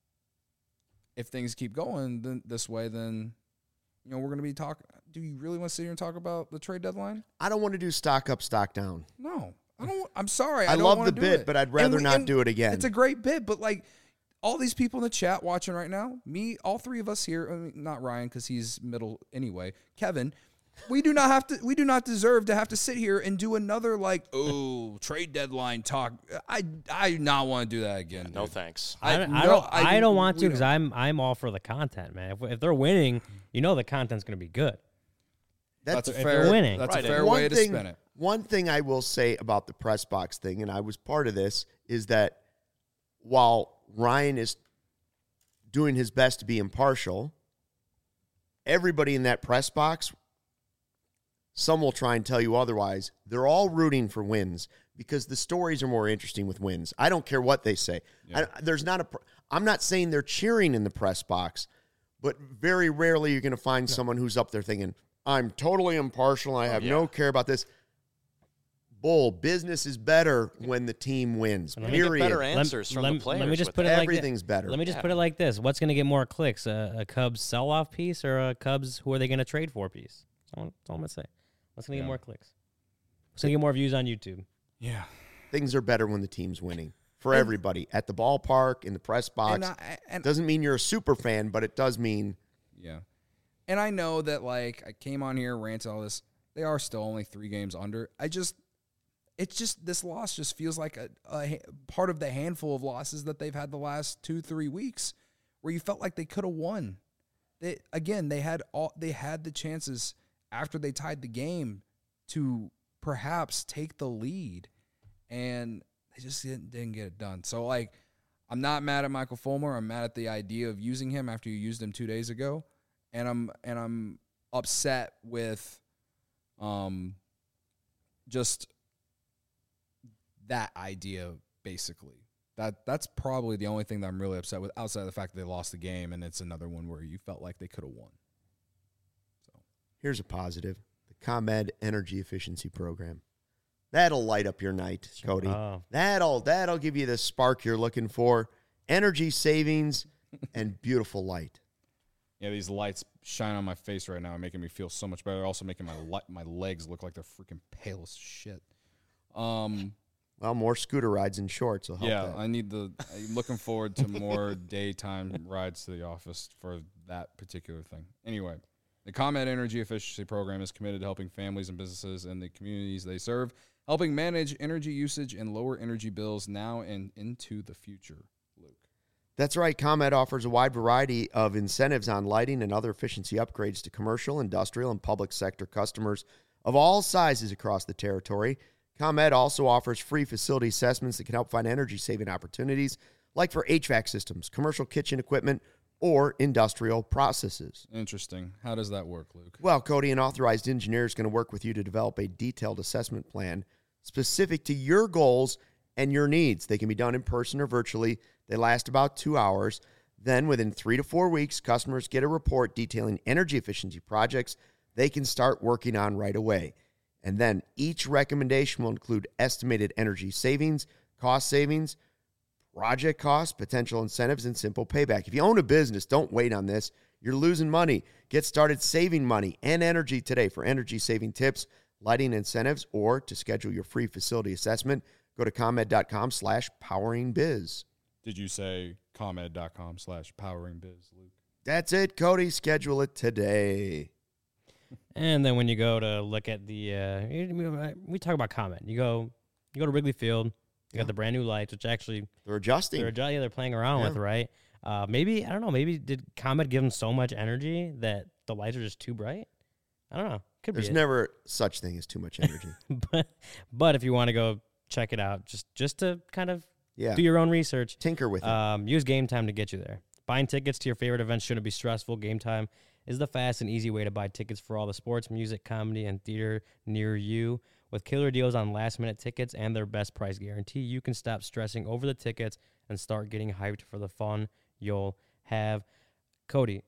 if things keep going then, this way, then, you know, we're going to be talking. Do you really want to sit here and talk about the trade deadline? I don't want to do stock up, stock down. No. I don't. I'm sorry. I, I don't love wanna the do bit, it. but I'd And rather we- not and do it again. It's a great bit, but like all these people in the chat watching right now, me, all three of us here, I mean, not Ryan because he's middle anyway. Kevin, we do not have to. We do not deserve to have to sit here and do another like oh trade deadline talk. I I do not want to do that again. No dude. thanks. I, don't- I no, don't. I, don't want to we because don't. I'm I'm all for the content, man. If, if they're winning, you know the content's going to be good. That's, That's a if fair. you're winning. That's Right, a fair and way to thing, spin it. One thing I will say about the press box thing, and I was part of this, is that while Ryan is doing his best to be impartial, everybody in that press box, some will try and tell you otherwise, they're all rooting for wins because the stories are more interesting with wins. I don't care what they say. I, there's not a. pr- I'm not saying they're cheering in the press box, but very rarely you're going to find someone who's up there thinking, I'm totally impartial. I have yeah. no care about this. Bull, business is better when the team wins. Let me get Period. better Lem- answers from lem- the players. Let me just with put it that. like thi- Everything's better. Let me just Yeah. put it like this: what's going to get more clicks, a, a Cubs sell-off piece or a Cubs who are they going to trade for piece? That's all, that's all I'm going to say. What's going to Yeah. get more clicks? What's going to get more views on YouTube? Yeah. Things are better when the team's winning for everybody at the ballpark, in the press box. And I, and Doesn't mean you're a super fan, but it does mean Yeah. And I know that, like, I came on here, ranted all this. They are still only three games under. I just, it's just, this loss just feels like a, a ha- part of the handful of losses that they've had the last two, three weeks where you felt like they could have won. They, again, they had all, they had the chances after they tied the game to perhaps take the lead, and they just didn't, didn't get it done. So, like, I'm not mad at Michael Fulmer. I'm mad at the idea of using him after you used him two days ago. And I'm and I'm upset with um just that idea, basically. That that's probably the only thing that I'm really upset with, outside of the fact that they lost the game, and it's another one where you felt like they could have won. So here's a positive. The ComEd Energy Efficiency Program. That'll light up your night, Cody. Oh. That'll that'll give you the spark you're looking for. Energy savings and beautiful light. yeah, these lights shine on my face right now, making me feel so much better. Also making my li- my legs look like they're freaking pale as shit. Um, Well, more scooter rides in shorts will help. Yeah, that. I need the. I'm looking forward to more daytime rides to the office for that particular thing. Anyway, the ComEd Energy Efficiency Program is committed to helping families and businesses in the communities they serve, helping manage energy usage and lower energy bills now and into the future. Luke. That's right. ComEd offers a wide variety of incentives on lighting and other efficiency upgrades to commercial, industrial, and public sector customers of all sizes across the territory. ComEd also offers free facility assessments that can help find energy-saving opportunities, like for H V A C systems, commercial kitchen equipment, or industrial processes. Interesting. How does that work, Luke? Well, Cody, an authorized engineer is going to work with you to develop a detailed assessment plan specific to your goals and your needs. They can be done in person or virtually. They last about two hours. Then, within three to four weeks, customers get a report detailing energy efficiency projects they can start working on right away. And then each recommendation will include estimated energy savings, cost savings, project costs, potential incentives, and simple payback. If you own a business, don't wait on this. You're losing money. Get started saving money and energy today. For energy-saving tips, lighting incentives, or to schedule your free facility assessment, go to ComEd.com slash poweringbiz. Did you say ComEd.com slash poweringbiz, Luke? That's it, Cody. Schedule it today. And then when you go to look at the, uh, we talk about ComEd. You go, you go to Wrigley Field. You Yeah. got the brand new lights, which actually They're adjusting. they're adju- yeah, they're playing around Yeah. with, right? Uh, maybe I don't know. Maybe did ComEd give them so much energy that the lights are just too bright? I don't know. Could There's be. it. never such thing as too much energy. but but if you want to go check it out, just just to kind of Yeah. do your own research, Tinker with it. um, use Game Time to get you there. Buying tickets to your favorite events shouldn't be stressful. Game Time is the fast and easy way to buy tickets for all the sports, music, comedy, and theater near you. With killer deals on last-minute tickets and their best price guarantee, you can stop stressing over the tickets and start getting hyped for the fun you'll have. Cody,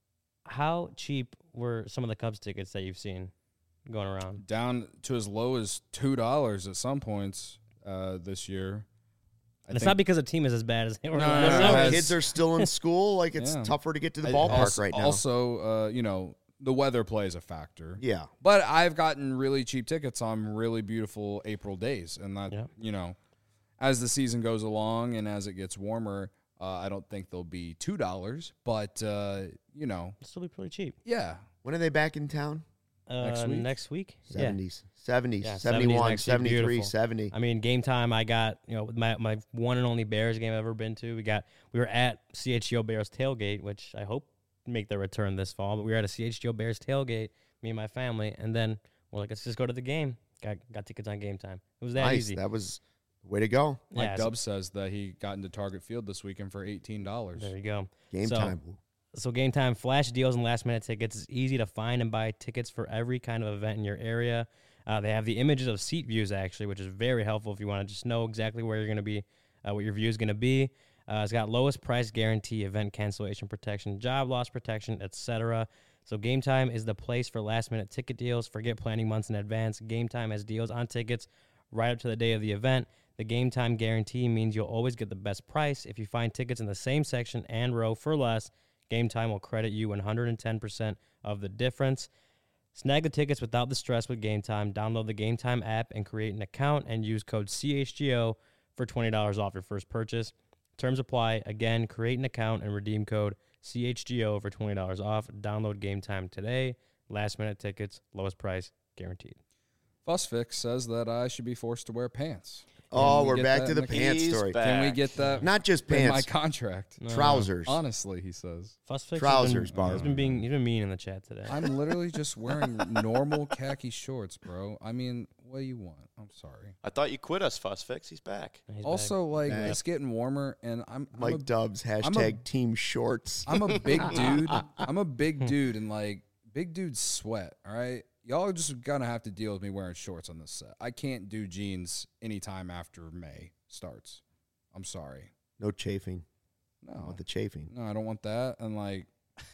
how cheap were some of the Cubs tickets that you've seen going around? Down to as low as two dollars at some points uh, this year. I And it's think- not because the team is as bad as they were. No, last no, no, summer. no, Kids are still in school. Like, it's Yeah. tougher to get to the I- ballpark also, right now. Also, uh, you know, the weather plays a factor. yeah. But I've gotten really cheap tickets on really beautiful April days. And that, Yeah. you know, as the season goes along and as it gets warmer, uh, I don't think they'll be two dollars. But, uh, you know, It'll still be pretty cheap. yeah. When are they back in town? Uh, Next week? Next week? Yeah. seventies. seventies. Yeah, seventies seventy-one, next week, seventy-three, beautiful. seventy. I mean, Game Time, I got, you know, my, my one and only Bears game I've ever been to. We got, we were at C H G O Bears tailgate, which I hope make their return this fall, but we were at a C H G O Bears tailgate, me and my family, and then we're like, let's just go to the game. Got got tickets on Game Time. It was that Nice. easy. That was the way to go. Mike Yeah, so- Dubs says that he got into Target Field this weekend for eighteen dollars. There you go. Game So- time. So Game Time flash deals and last minute tickets. It's easy to find and buy tickets for every kind of event in your area. Uh, they have the images of seat views actually, which is very helpful if you want to just know exactly where you're going to be, uh, what your view is going to be. Uh, it's got lowest price guarantee, event cancellation protection, job loss protection, et cetera. So Game Time is the place for last minute ticket deals. Forget planning months in advance. Game Time has deals on tickets right up to the day of the event. The Game Time guarantee means you'll always get the best price. If you find tickets in the same section and row for less, Game Time will credit you one hundred ten percent of the difference. Snag the tickets without the stress with Game Time. Download the Game Time app and create an account and use code C H G O for twenty dollars off your first purchase. Terms apply. Again, create an account and redeem code C H G O for twenty dollars off. Download Game Time today. Last minute tickets, lowest price guaranteed. Fussfix says that I should be forced to wear pants. Oh, we we're get back that to in the the- pants He's story. back. Can we get that Not just in my pants, contract? No, trousers. Honestly, he says. Fussfix Trousers, has been, Barb. he's been being he's been mean in the chat today. I'm literally just wearing normal khaki shorts, bro. I mean, what do you want? I'm sorry. I thought you quit us, Fuss Fix. He's back. He's back. Also, like, Back. it's getting warmer, and I'm I'm Mike a, Dubs, hashtag team shorts. I'm a big dude. I'm a big dude, and like big dudes sweat. All right, y'all are just gonna have to deal with me wearing shorts on this set. I can't do jeans anytime after May starts. I'm sorry. No chafing. I No, want the chafing. no, I don't want that. And like,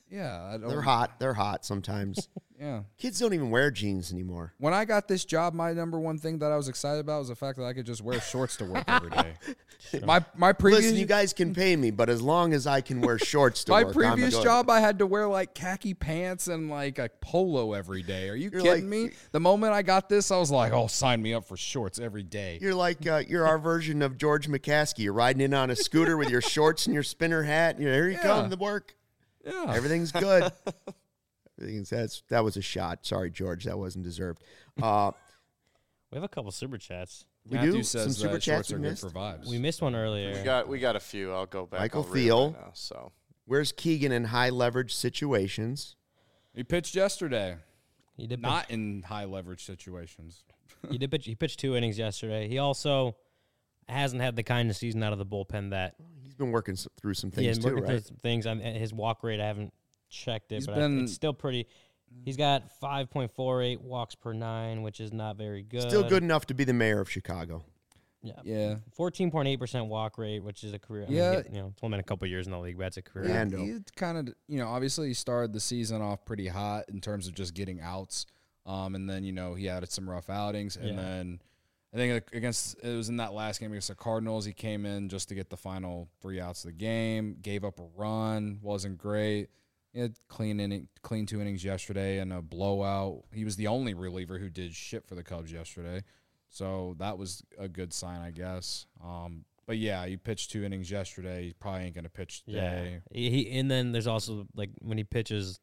Yeah, I don't, They're hot. They're hot sometimes. Yeah. Kids don't even wear jeans anymore. When I got this job, my number one thing that I was excited about was the fact that I could just wear shorts to work every day. My my previous Listen, you guys can pay me, but as long as I can wear shorts to my work, previous I'm good. job, I had to wear like khaki pants and like a polo every day. Are you You're kidding like- me? The moment I got this, I was like, "Oh, sign me up for shorts every day." You're like uh, you're our version of George McCaskey. You're riding in on a scooter with your shorts and your spinner hat. And you're, here you Yeah. come to work. Yeah. Everything's good. Everything's that's that was a shot. Sorry, George, that wasn't deserved. Uh, We have a couple super chats. we Matthew do says some super that chats shorts we are good missed. for vibes. We missed one We earlier. got we got a few. I'll go back. Michael I'll read 'em Thiel. right now, so Where's Keegan in high leverage situations? He pitched yesterday, He did not in high leverage situations. pitch, he did pitch. He pitched two innings yesterday. He also hasn't had the kind of season out of the bullpen that He's been working s- through some he things had too, working right? through some things. I mean, his walk rate, I haven't checked it, He's but been- I, it's still pretty. He's got five point four eight walks per nine, which is not very good. Still good enough to be the mayor of Chicago. Yeah. Yeah. fourteen point eight percent walk rate, which is a career. I mean, Yeah. he- you know, it's only been a couple years in the league, but that's a career. Yeah. Yeah, Rando. he kind of, you know, obviously he started the season off pretty hot in terms of just getting outs. Um, and then, you know, he had some rough outings. And Yeah. then I think against, it was in that last game against the Cardinals, he came in just to get the final three outs of the game, gave up a run, wasn't great. He had clean inning, clean two innings yesterday and a blowout. He was the only reliever who did shit for the Cubs yesterday. So that was a good sign, I guess. Um, but yeah, he pitched two innings yesterday. He probably ain't going to pitch today. Yeah. He and then there's also like when he pitches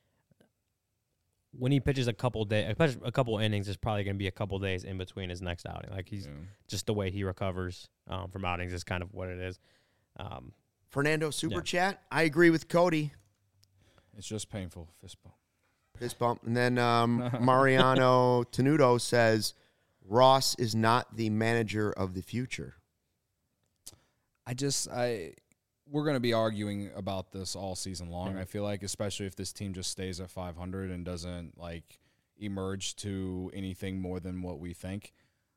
when he pitches a couple days, a couple innings, there's probably going to be a couple days in between his next outing. Like he's Yeah. just the way he recovers um, from outings is kind of what it is. Um, Fernando super Yeah. chat. I agree with Cody. It's just painful. Fist bump. Fist bump. And then um, Mariano Tenuto says Ross is not the manager of the future. I just I we're going to be arguing about this all season long. Yeah. I feel like, especially if this team just stays at five hundred and doesn't like emerge to anything more than what we think.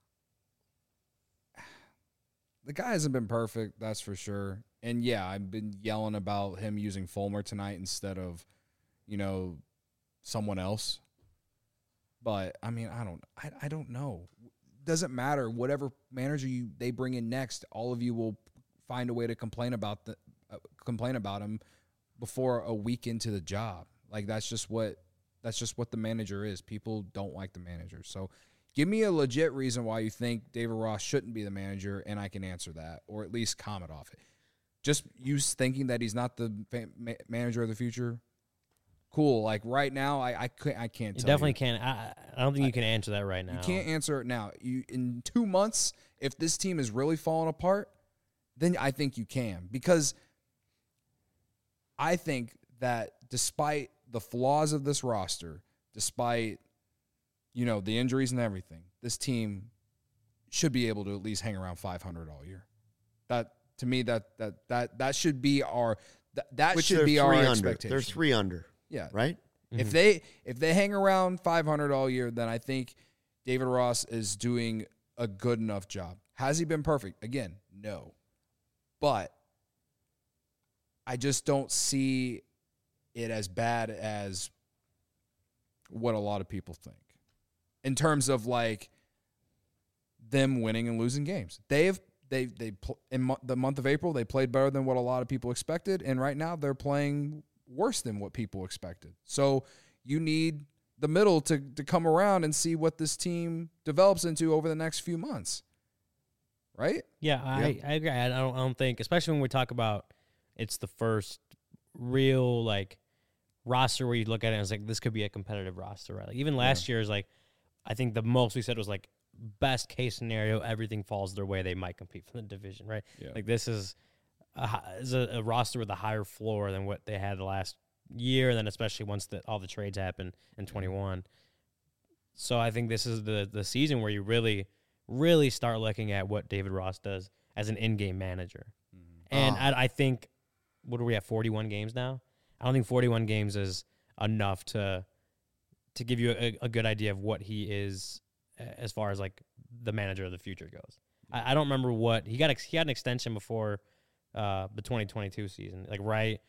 The guy hasn't been perfect, that's for sure. And yeah, I've been yelling about him using Fulmer tonight instead of, you know, someone else. But I mean, I don't, I, I don't know. Doesn't matter. Whatever manager you they bring in next, all of you will find a way to complain about the uh, complain about him before a week into the job. Like that's just what that's just what the manager is. People don't like the manager. So give me a legit reason why you think David Ross shouldn't be the manager, and I can answer that or at least comment off it. Just you thinking that he's not the fa- ma- manager of the future. Cool. Like right now, I I, could, I can't. you tell definitely you. can't. I, I don't think you can answer that right now. You can't answer it now. You in two months, if this team is really falling apart, then I think you can. Because I think that despite the flaws of this roster, despite you know the injuries and everything, this team should be able to at least hang around five hundred all year. That to me, that that that that should be our that, that Which should they're be our three under. expectation. They're three under, Yeah, right? if they if they hang around five hundred all year, then I think David Ross is doing a good enough job. Has he been perfect? Again, no. But I just don't see it as bad as what a lot of people think in terms of like them winning and losing games. They have they they pl- in mo- the month of April they played better than what a lot of people expected, and right now they're playing worse than what people expected. So you need the middle to to come around and see what this team develops into over the next few months. Right? Yeah, I, I agree. I don't, I don't think, especially when we talk about it's the first real like roster where you look at it and it's like this could be a competitive roster, right? Like even last year is like I think the most we said was like best case scenario, everything falls their way, they might compete for the division, right? Yeah. Like this is a, hi- is a, a roster with a higher floor than what they had the last year, and then especially once the, all the trades happened in twenty-one. So I think this is the the season where you really, really start looking at what David Ross does as an in-game manager. And Oh. I, I think, what are we at, forty-one games now? I don't think forty-one games is enough to to give you a, a good idea of what he is uh, as far as like the manager of the future goes. I, I don't remember what he got. Ex, he had an extension before uh, the twenty twenty-two season, like right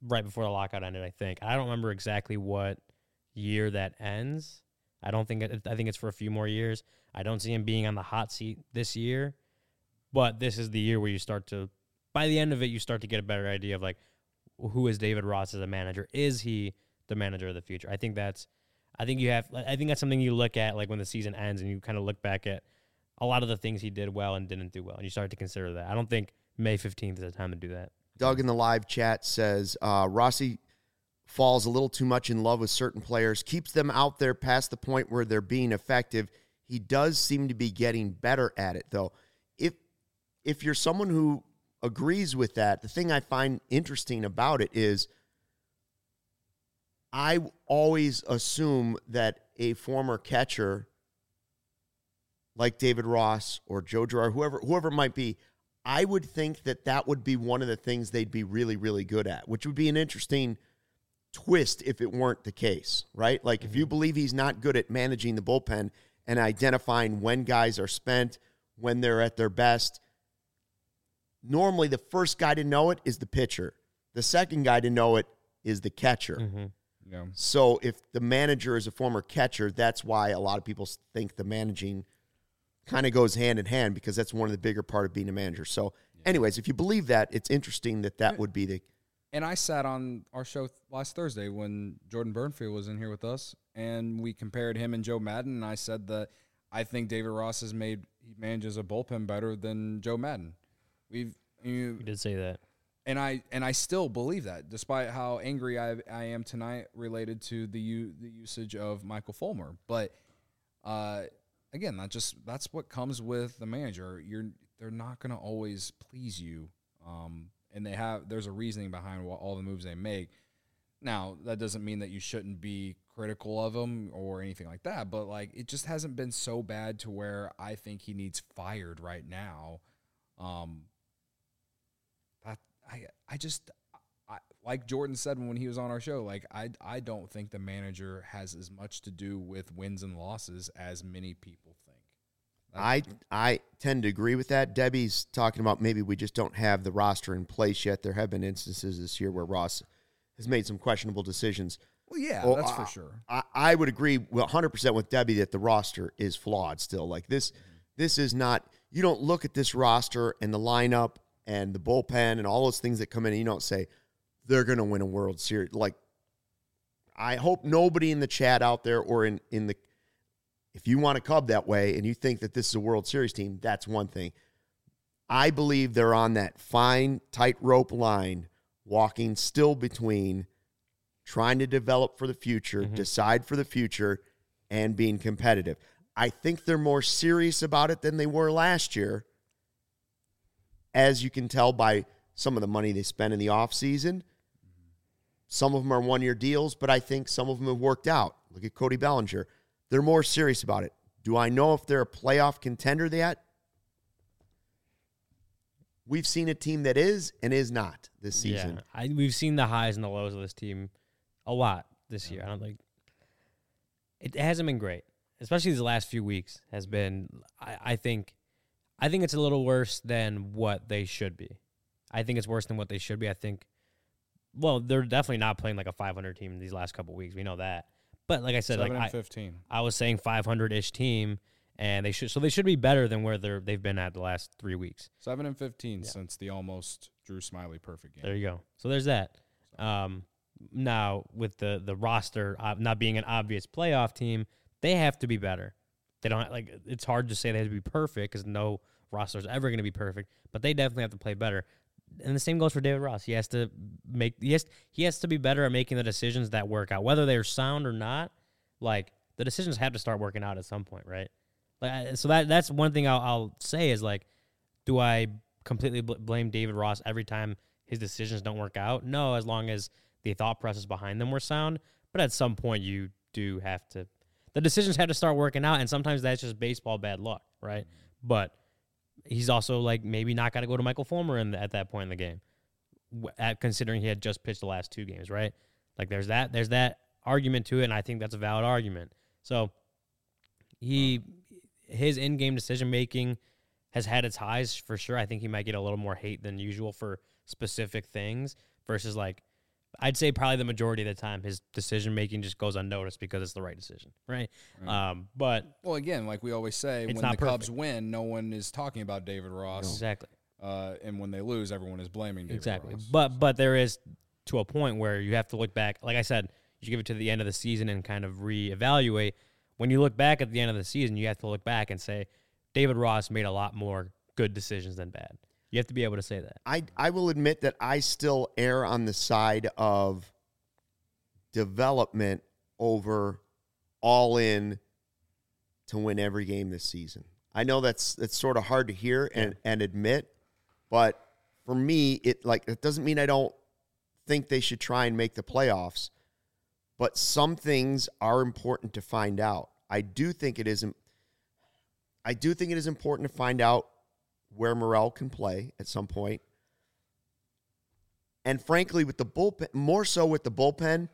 right before the lockout ended, I think. I don't remember exactly what year that ends. I don't think it, I think it's for a few more years. I don't see him being on the hot seat this year, but this is the year where you start to, by the end of it, you start to get a better idea of like, who is David Ross as a manager? Is he the manager of the future? I think that's, I think you have, I think that's something you look at like when the season ends and you kind of look back at a lot of the things he did well and didn't do well, and you start to consider that. I don't think May fifteenth is the time to do that. Doug in the live chat says, uh, Rossi falls a little too much in love with certain players, keeps them out there past the point where they're being effective. He does seem to be getting better at it, though. If if you're someone who agrees with that, the thing I find interesting about it is I always assume that a former catcher like David Ross or Joe Girard, whoever, whoever it might be, I would think that that would be one of the things they'd be really, really good at, which would be an interesting twist if it weren't the case, right? Like, mm-hmm. if you believe he's not good at managing the bullpen and identifying when guys are spent, when they're at their best, normally the first guy to know it is the pitcher. The second guy to know it is the catcher. Mm-hmm. Yeah. So if the manager is a former catcher, that's why a lot of people think the managing kind of goes hand in hand, because that's one of the bigger part of being a manager. So yeah. anyways, if you believe that, it's interesting that that would be the... And I sat on our show last Thursday when Jordan Burnfield was in here with us, and we compared him and Joe Madden, and I said that I think David Ross has made, he manages a bullpen better than Joe Madden. We've... You, you did say that. And I and I still believe that, despite how angry I I am tonight related to the u, the usage of Michael Fulmer. But uh, again, that just that's what comes with the manager. You're they're not going to always please you, um, and they have there's a reasoning behind what, all the moves they make. Now that doesn't mean that you shouldn't be critical of them or anything like that. But like it just hasn't been so bad to where I think he needs fired right now. Um, that. I I just I, like Jordan said when he was on our show, like I I don't think the manager has as much to do with wins and losses as many people think. I I tend to agree with that. Debbie's talking about maybe we just don't have the roster in place yet. There have been instances this year where Ross has made some questionable decisions. Well, yeah, well, that's I, for sure. I, I would agree one hundred percent with Debbie that the roster is flawed still. Like this, mm-hmm. this is not, you don't look at this roster and the lineup and the bullpen and all those things that come in, and you don't say, they're going to win a World Series. Like, I hope nobody in the chat out there or in, in the, if you want a Cub that way and you think that this is a World Series team, that's one thing. I believe they're on that fine tightrope line, walking still between trying to develop for the future, mm-hmm. decide for the future, and being competitive. I think they're more serious about it than they were last year, as you can tell by some of the money they spend in the offseason. Some of them are one-year deals, but I think some of them have worked out. Look at Cody Bellinger. They're more serious about it. Do I know if they're a playoff contender yet? We've seen a team that is and is not this season. Yeah, I, we've seen the highs and the lows of this team a lot this year. I don't think it hasn't been great, especially these last few weeks. Has been, I, I think, I think it's a little worse than what they should be. I think it's worse than what they should be. I think, well, they're definitely not playing like a five hundred team these last couple of weeks. We know that. But like I said, seven like and fifteen. I, I was saying five hundred-ish team, and they should so they should be better than where they're they've been at the last three weeks. Seven and fifteen yeah. since the almost Drew Smiley perfect game. There you go. So there's that. Um, now with the the roster uh, not being an obvious playoff team, they have to be better. They don't like. It's hard to say they have to be perfect because no roster is ever going to be perfect, but they definitely have to play better. And the same goes for David Ross. He has to make he has, he has to be better at making the decisions that work out, whether they're sound or not. Like the decisions have to start working out at some point, right? Like so that that's one thing I'll, I'll say is like, do I completely bl- blame David Ross every time his decisions don't work out? No, as long as the thought process behind them were sound. But at some point, you do have to. The decisions have to start working out, and sometimes that's just baseball bad luck, right? Mm-hmm. But he's also like maybe not got to go to Michael Fulmer in the, at that point in the game, at considering he had just pitched the last two games, right? Like there's that there's that argument to it, and I think that's a valid argument. So he his in-game decision making has had its highs for sure. I think he might get a little more hate than usual for specific things versus like I'd say probably the majority of the time his decision making just goes unnoticed because it's the right decision, right? Right. Um, but Well, again, like we always say, It's when not the Cubs perfect. win, no one is talking about David Ross. exactly, Uh, and when they lose, everyone is blaming David exactly. Ross. But but there is to a point where you have to look back. Like I said, you give it to the end of the season and kind of reevaluate. When you look back at the end of the season, you have to look back and say David Ross made a lot more good decisions than bad. You have to be able to say that. I I will admit that I still err on the side of development over all in to win every game this season. I know that's that's sort of hard to hear and, and admit, but for me, it like it doesn't mean I don't think they should try and make the playoffs, but some things are important to find out. I do think it is I do think it is important to find out where Morel can play at some point. And frankly, with the bullpen, more so with the bullpen,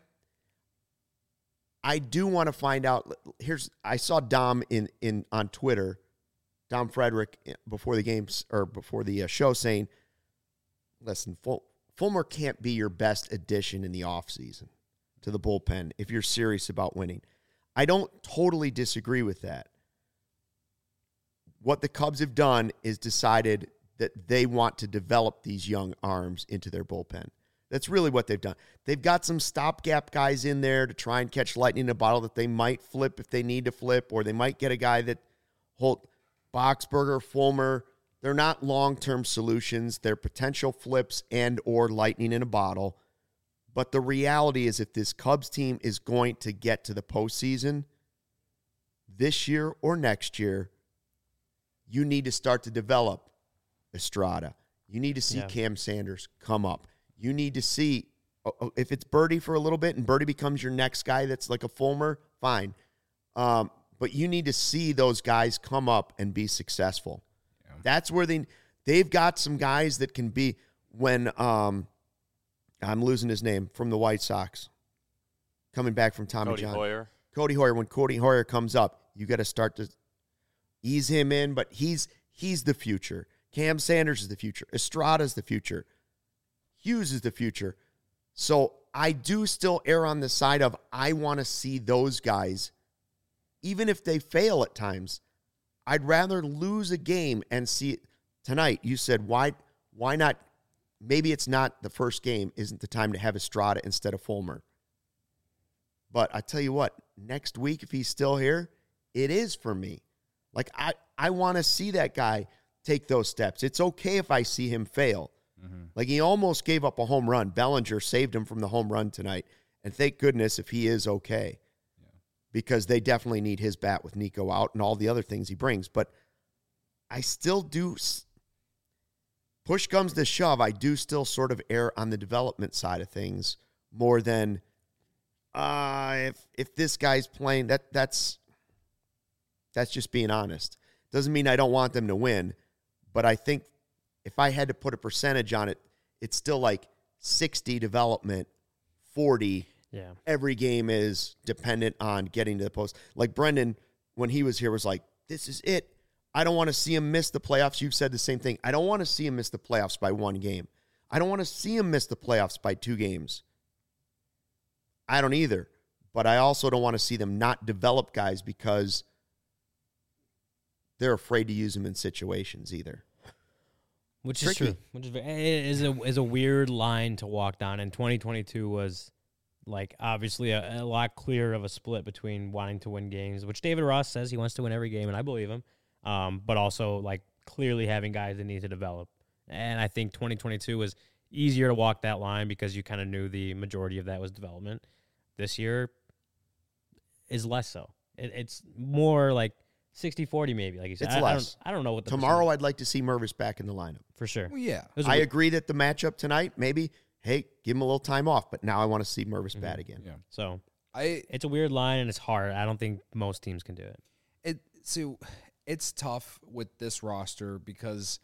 I do want to find out. Here's I saw Dom in in on Twitter, Dom Frederick before the games or before the uh, show saying, "Listen, Ful- Fulmer can't be your best addition in the offseason to the bullpen if you're serious about winning." I don't totally disagree with that. What the Cubs have done is decided that they want to develop these young arms into their bullpen. That's really what they've done. They've got some stopgap guys in there to try and catch lightning in a bottle that they might flip if they need to flip, or they might get a guy that hold Boxberger, Fulmer. They're not long-term solutions. They're potential flips and or lightning in a bottle. But the reality is if this Cubs team is going to get to the postseason this year or next year, you need to start to develop Estrada. You need to see Yeah. Cam Sanders come up. You need to see, if it's Birdie for a little bit and Birdie becomes your next guy that's like a Fulmer, fine. Um, but you need to see those guys come up and be successful. Yeah. That's where they, they've got some guys that can be, when um, I'm losing his name, from the White Sox, coming back from Tommy Cody John. Hoyer. Cody Hoyer. When Cody Hoyer comes up, you got to start to ease him in, but he's he's the future. Cam Sanders is the future. Estrada is the future. Hughes is the future. So I do still err on the side of I want to see those guys, even if they fail at times. I'd rather lose a game and see it tonight. You said, why, why not? Maybe it's not the first game, isn't the time to have Estrada instead of Fulmer. But I tell you what, next week, if he's still here, it is for me. Like, I, I want to see that guy take those steps. It's okay if I see him fail. Mm-hmm. Like, he almost gave up a home run. Bellinger saved him from the home run tonight. And thank goodness if he is okay. Yeah. Because they definitely need his bat with Nico out and all the other things he brings. But I still do, push comes to shove, I do still sort of err on the development side of things more than uh, if if this guy's playing, that that's that's just being honest. Doesn't mean I don't want them to win, but I think if I had to put a percentage on it, it's still like sixty development, forty. Yeah. Every game is dependent on getting to the post. Like Brendan, when he was here, was like, this is it. I don't want to see him miss the playoffs. You've said the same thing. I don't want to see him miss the playoffs by one game. I don't want to see him miss the playoffs by two games. I don't either. But I also don't want to see them not develop guys because they're afraid to use them in situations either. Which Tricky. is true. Which is, it is a is a weird line to walk down. And twenty twenty-two was like obviously a, a lot clearer of a split between wanting to win games, which David Ross says he wants to win every game, and I believe him. Um, but also like clearly having guys that need to develop. And I think twenty twenty-two was easier to walk that line because you kind of knew the majority of that was development. This year is less so. It, it's more like sixty forty maybe, like you said. It's I, less. I don't, I don't know what the Tomorrow, percentage- I'd like to see Mervis back in the lineup. for sure. Well, yeah. It was a I weird- agree that the matchup tonight, maybe, hey, give him a little time off. But now I want to see Mervis Mm-hmm. bat again. Yeah. So I it's a weird line and it's hard. I don't think most teams can do it. it so it's tough with this roster because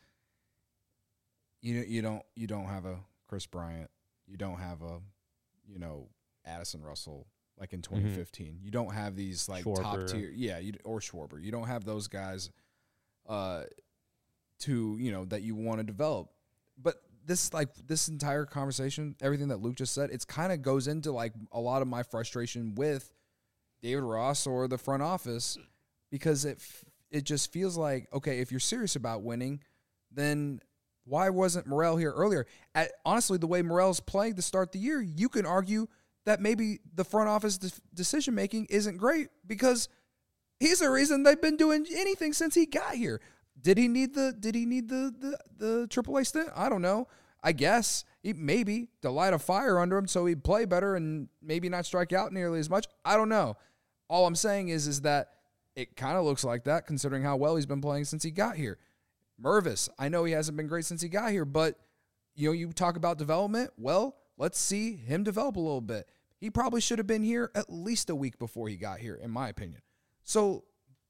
you you don't you don't have a Chris Bryant, you don't have a you know Addison Russell like in twenty fifteen. You don't have these like top Schwarber. tier, yeah, you, or Schwarber. You don't have those guys uh to you know that you want to develop. But this like this entire conversation, everything that Luke just said, it's kind of goes into like a lot of my frustration with David Ross or the front office, because it it just feels like, okay, if you're serious about winning, then why wasn't Morel here earlier? At, honestly, the way Morel's playing to start the year, you can argue that maybe the front office de- decision making isn't great, because he's the reason they've been doing anything since he got here. Did he need the Did he need the the, the triple A stint? I don't know. I guess he, maybe to light a fire under him so he'd play better and maybe not strike out nearly as much. I don't know. All I'm saying is is that it kind of looks like that, considering how well he's been playing since he got here. Mervis, I know he hasn't been great since he got here, but you know, you talk about development. Well, let's see him develop a little bit. He probably should have been here at least a week before he got here, in my opinion. So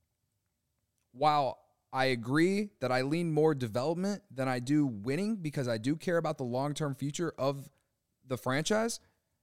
while I agree that I lean more development than I do winning, because I do care about the long-term future of the franchise,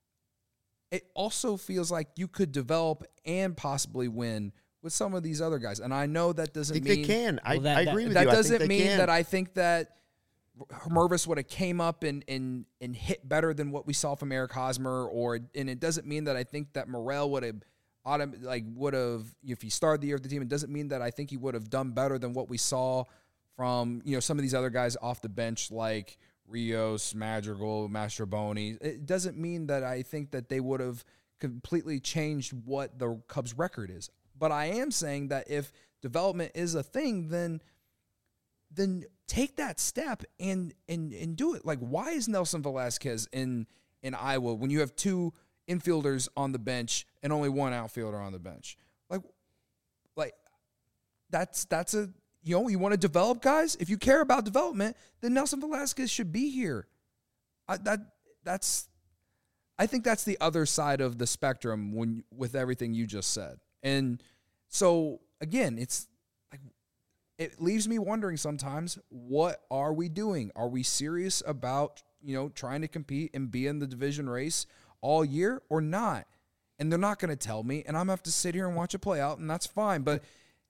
it also feels like you could develop and possibly win with some of these other guys. And I know that doesn't I think mean they can. I, Well, that- I agree with that you. I think doesn't they mean can. that I think that Mervis would have came up and, and and hit better than what we saw from Eric Hosmer, or and it doesn't mean that I think that Morel would have autom- like would have, if he started the year with the team, it doesn't mean that I think he would have done better than what we saw from, you know, some of these other guys off the bench like Rios, Madrigal, Mastroboni. It doesn't mean that I think that they would have completely changed what the Cubs record is. But I am saying that if development is a thing, then then take that step and and and do it. Like, why is Nelson Velasquez in in Iowa when you have two infielders on the bench and only one outfielder on the bench? Like, like that's that's a you know, you want to develop guys? If you care about development, then Nelson Velasquez should be here. I, that that's I think that's the other side of the spectrum when with everything you just said. And so again, it's like it leaves me wondering sometimes, what are we doing? Are we serious about, you know, trying to compete and be in the division race all year or not? And they're not going to tell me, and I'm going to have to sit here and watch it play out, and that's fine. But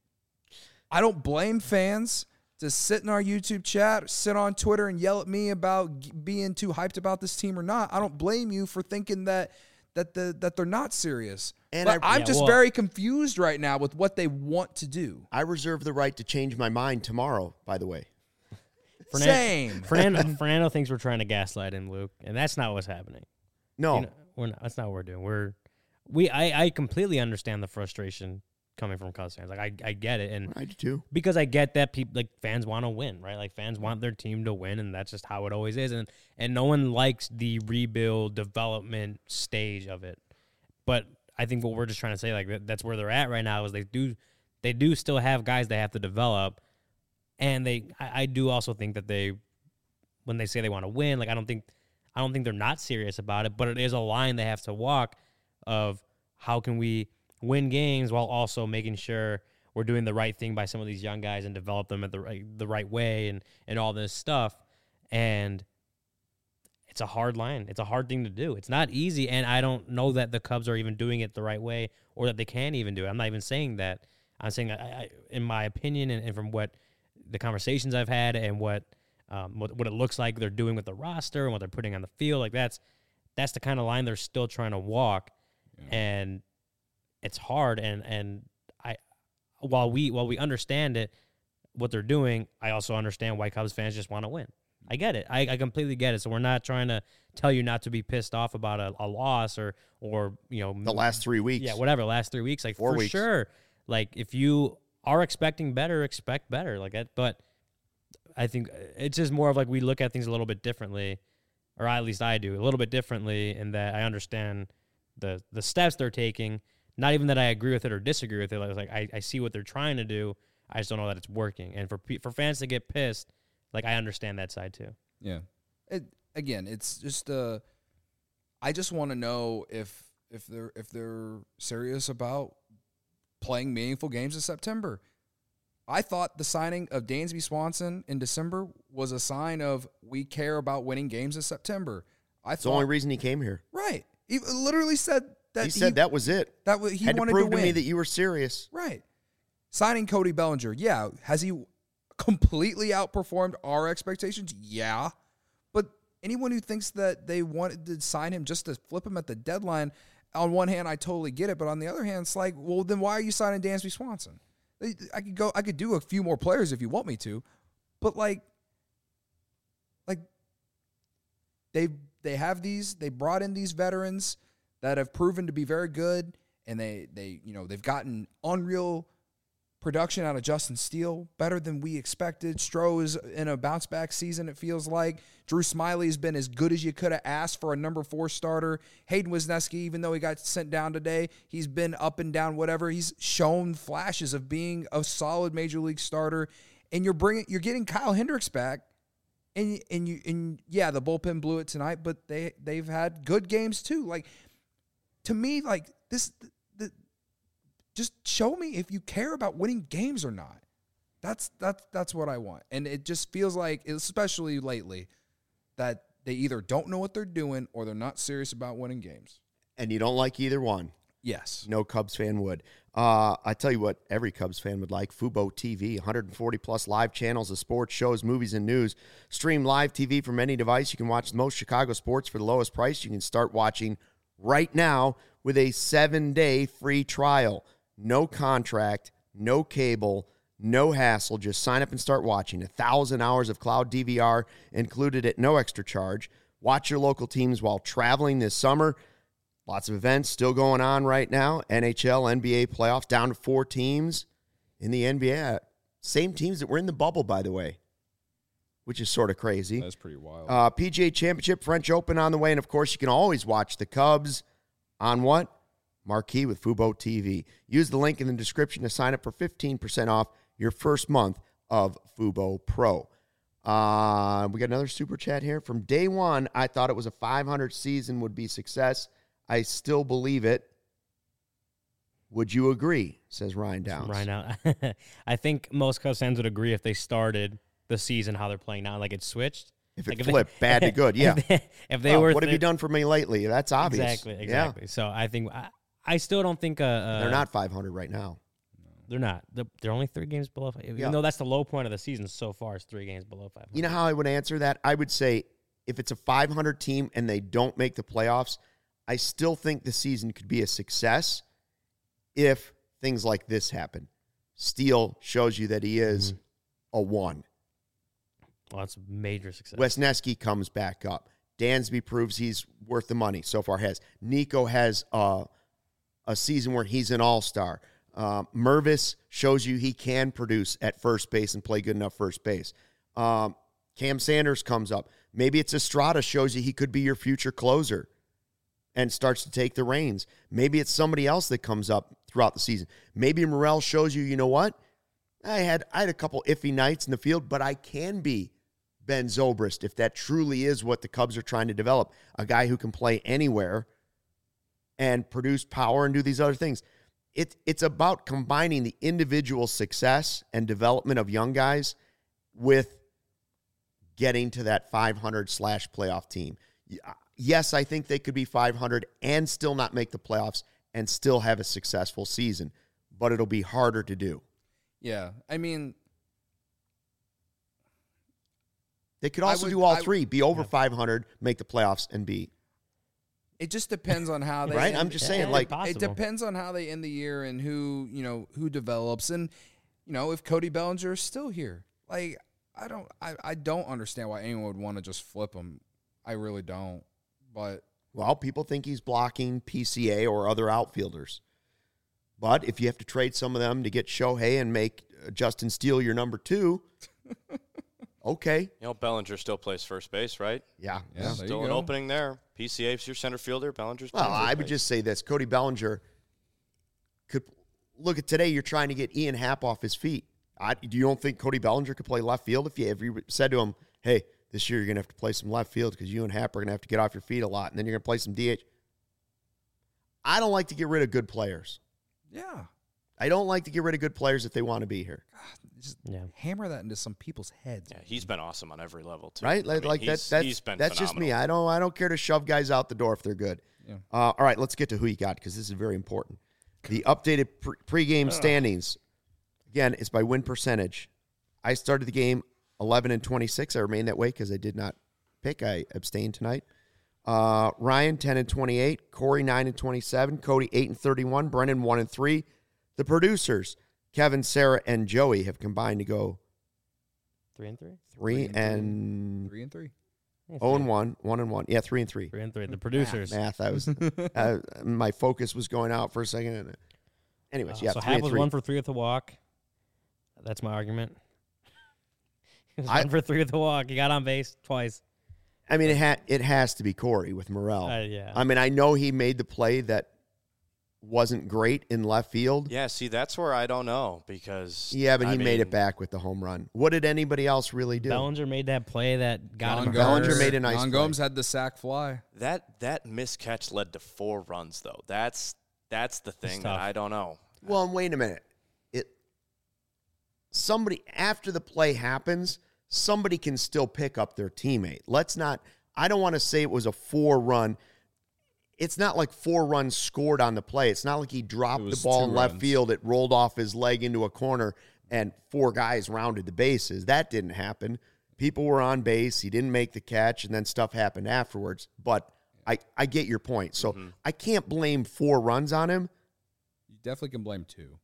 I don't blame fans to sit in our YouTube chat, sit on Twitter and yell at me about g- being too hyped about this team or not. I don't blame you for thinking that that the that they're not serious. And But I- I'm Yeah, just well- very confused right now with what they want to do. I reserve the right to change my mind tomorrow, by the way. Fernan- Same. Fernando, Fernando thinks we're trying to gaslight him, Luke, and that's not what's happening. No. You know, we're not, that's not what we're doing. We're we I, I completely understand the frustration coming from Cubs fans. Like I, I get it, and I do too. because I get that people like fans want to win, right? Like fans want their team to win, and that's just how it always is. And and no one likes the rebuild development stage of it. But I think what we're just trying to say, like that, that's where they're at right now, is they do they do still have guys they have to develop, and they I, I do also think that they when they say they want to win, like I don't think I don't think they're not serious about it, but it is a line they have to walk of how can we win games while also making sure we're doing the right thing by some of these young guys and develop them at the right, the right way and, and all this stuff. And it's a hard line. It's a hard thing to do. It's not easy, and I don't know that the Cubs are even doing it the right way or that they can even do it. I'm not even saying that. I'm saying, I, I, in my opinion, and, and from what the conversations I've had and what, um, what what it looks like they're doing with the roster and what they're putting on the field, like that's that's the kind of line they're still trying to walk, yeah. And it's hard. And and I, while we while we understand it, what they're doing, I also understand why Cubs fans just want to win. I get it. I, I completely get it. So we're not trying to tell you not to be pissed off about a, a loss or or you know the last three weeks. Yeah, whatever. Last three weeks, like Four for weeks. sure. Like if you are expecting better, expect better. Like that. But I think it's just more of like we look at things a little bit differently, or at least I do a little bit differently, in that I understand the the steps they're taking. Not even that I agree with it or disagree with it. Like, like I, I see what they're trying to do. I just don't know that it's working. And for for fans to get pissed, like I understand that side too. Yeah. It again, it's just uh I just want to know if if they're if they're serious about playing meaningful games in September. I thought the signing of Dansby Swanson in December was a sign of we care about winning games in September. I It's thought the only reason he came here. right. He literally said that He said that was it. that was, he Had to wanted prove to to, win. me that you were serious. Right. Signing Cody Bellinger, yeah. Has he completely outperformed our expectations? Yeah. But anyone who thinks that they wanted to sign him just to flip him at the deadline, on one hand, I totally get it, but on the other hand, it's like, well, then why are you signing Dansby Swanson? I could go, I could do a few more players if you want me to, but like, like they they have these, they brought in these veterans that have proven to be very good, and they they you know they've gotten unreal production out of Justin Steele, better than we expected. Stroh is in a bounce back season, it feels like. Drew Smiley has been as good as you could have asked for a number four starter. Hayden Wisniewski, even though he got sent down today, he's been up and down, whatever. He's shown flashes of being a solid major league starter. And you're bringing, you're getting Kyle Hendricks back. And and you and yeah, the bullpen blew it tonight, but they they've had good games too. Like, to me, like this, the, just show me if you care about winning games or not. That's that's that's what I want. And it just feels like, especially lately, that they either don't know what they're doing or they're not serious about winning games. And you don't like either one. Yes. No Cubs fan would. Uh, I tell you what, every Cubs fan would like. Fubo T V, one hundred forty plus live channels of sports, shows, movies, and news. Stream live T V from any device. You can watch most Chicago sports for the lowest price. You can start watching right now with a seven-day free trial. No contract, no cable, no hassle. Just sign up and start watching. A thousand hours of cloud D V R included at no extra charge. Watch your local teams while traveling this summer. Lots of events still going on right now. N H L, N B A playoffs, down to four teams in the N B A. Same teams that were in the bubble, by the way, which is sort of crazy. That's pretty wild. Uh, P G A Championship, French Open on the way. And, of course, you can always watch the Cubs on what? Marquee with Fubo T V. Use the link in the description to sign up for fifteen percent off your first month of Fubo Pro. Uh, we got another super chat here. From day one, I thought it was a five hundred season would be success. I still believe it. Would you agree? Says Ryan Downs. Ryan Downs. I think most Cubs fans would agree if they started the season how they're playing now, like it switched. If it like flipped, if they, bad to good, yeah. If they, if they oh, were, what have you done for me lately? That's obvious. Exactly, exactly. Yeah. So I think I, I still don't think uh, uh, they're not five hundred right now. They're not. They're, they're only three games below. Even yeah. though that's the low point of the season so far, is three games below five hundred. You know how I would answer that? I would say if it's a five hundred team and they don't make the playoffs, I still think the season could be a success if things like this happen. Steele shows you that he is mm-hmm. a one. Well, that's a major success. Wisniewski comes back up. Dansby proves he's worth the money. So far has. Nico has uh, a season where he's an all-star. Um, Mervis shows you he can produce at first base and play good enough first base. Um, Cam Sanders comes up. Maybe it's Estrada shows you he could be your future closer and starts to take the reins. Maybe it's somebody else that comes up throughout the season. Maybe Morel shows you, you know what? I had I had a couple iffy nights in the field, but I can be Ben Zobrist if that truly is what the Cubs are trying to develop, a guy who can play anywhere and produce power and do these other things. It, it's about combining the individual success and development of young guys with getting to that five hundred slash playoff team. Yes, I think they could be five hundred and still not make the playoffs and still have a successful season, but it'll be harder to do. Yeah, I mean, they could also would, do all I, three, be over yeah. five hundred, make the playoffs, and be. It just depends on how they right. End, I'm just yeah, saying, like possible. It depends on how they end the year and who you know who develops, and you know if Cody Bellinger is still here. Like I don't, I, I don't understand why anyone would want to just flip him. I really don't. But well, people think he's blocking P C A or other outfielders. But if you have to trade some of them to get Shohei and make Justin Steele your number two, okay. You know, Bellinger still plays first base, right? Yeah. yeah still an go. opening there. P C A's your center fielder. Bellinger's well, playing first I would base. just say this. Cody Bellinger could look at today. You're trying to get Ian Happ off his feet. I, do you don't think Cody Bellinger could play left field if you, if you said to him, hey, this year you're going to have to play some left field because you and Happ are going to have to get off your feet a lot, and then you're going to play some D H. I don't like to get rid of good players. Yeah. I don't like to get rid of good players if they want to be here. God, just yeah. hammer that into some people's heads. Yeah, he's been awesome on every level too. Right? Like, I mean, like he's, that, that's, he's been that's just me. phenomenal. I don't I don't care to shove guys out the door if they're good. Yeah. Uh, all right, let's get to who you got because this is very important. The updated pre- pregame standings. Again, it's by win percentage. I started the game eleven and twenty-six. I remain that way because I did not pick. I abstained tonight. Uh, Ryan, ten and twenty-eight. Corey, nine and twenty-seven. Cody, eight and thirty-one. Brennan, one and three. The producers, Kevin, Sarah, and Joey, have combined to go Three and three. three, Three and and Three and three. Yeah, oh and three. one, one and one. Yeah, three and three. Three and three. The producers. Math. I was. uh, my focus was going out for a second. And anyways, Uh, yeah, so three Hap and was three. one for three with the walk. That's my argument. He was I- one for three with the walk. He got on base twice. I mean, it ha- it has to be Corey with Morel. Uh, yeah. I mean, I know he made the play that wasn't great in left field. Yeah, see, that's where I don't know because Yeah, but I he made it mean, back with the home run. What did anybody else really do? Bellinger made that play that got Jon him. Bellinger hurt. made a nice Jon play. Gomes had the sack fly. That that miscatch led to four runs though. That's that's the thing that tough. I don't know. Well, wait a minute. It somebody after the play happens, somebody can still pick up their teammate. Let's not. I don't want to say it was a four run. It's not like four runs scored on the play. It's not like he dropped It the was ball two in left runs. field. It rolled off his leg into a corner, and four guys rounded the bases. That didn't happen. People were on base. He didn't make the catch, and then stuff happened afterwards. But I, I get your point. So Mm-hmm. I can't blame four runs on him. You definitely can blame two.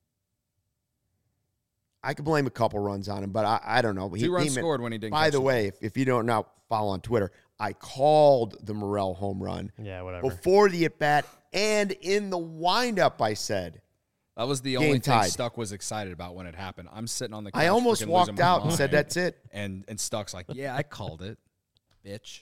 I could blame a couple runs on him, but I, I don't know. He, Two runs he meant- scored when he didn't. By catch the the way, if, if you don't now follow on Twitter, I called the Morel home run Yeah, whatever. before the at bat and in the windup. I said That was the Game only thing tied. Stuck was excited about when it happened. I'm sitting on the couch. I almost freaking walked losing my out and said, mind. "That's it." And and Stuck's like, yeah, I called it, bitch.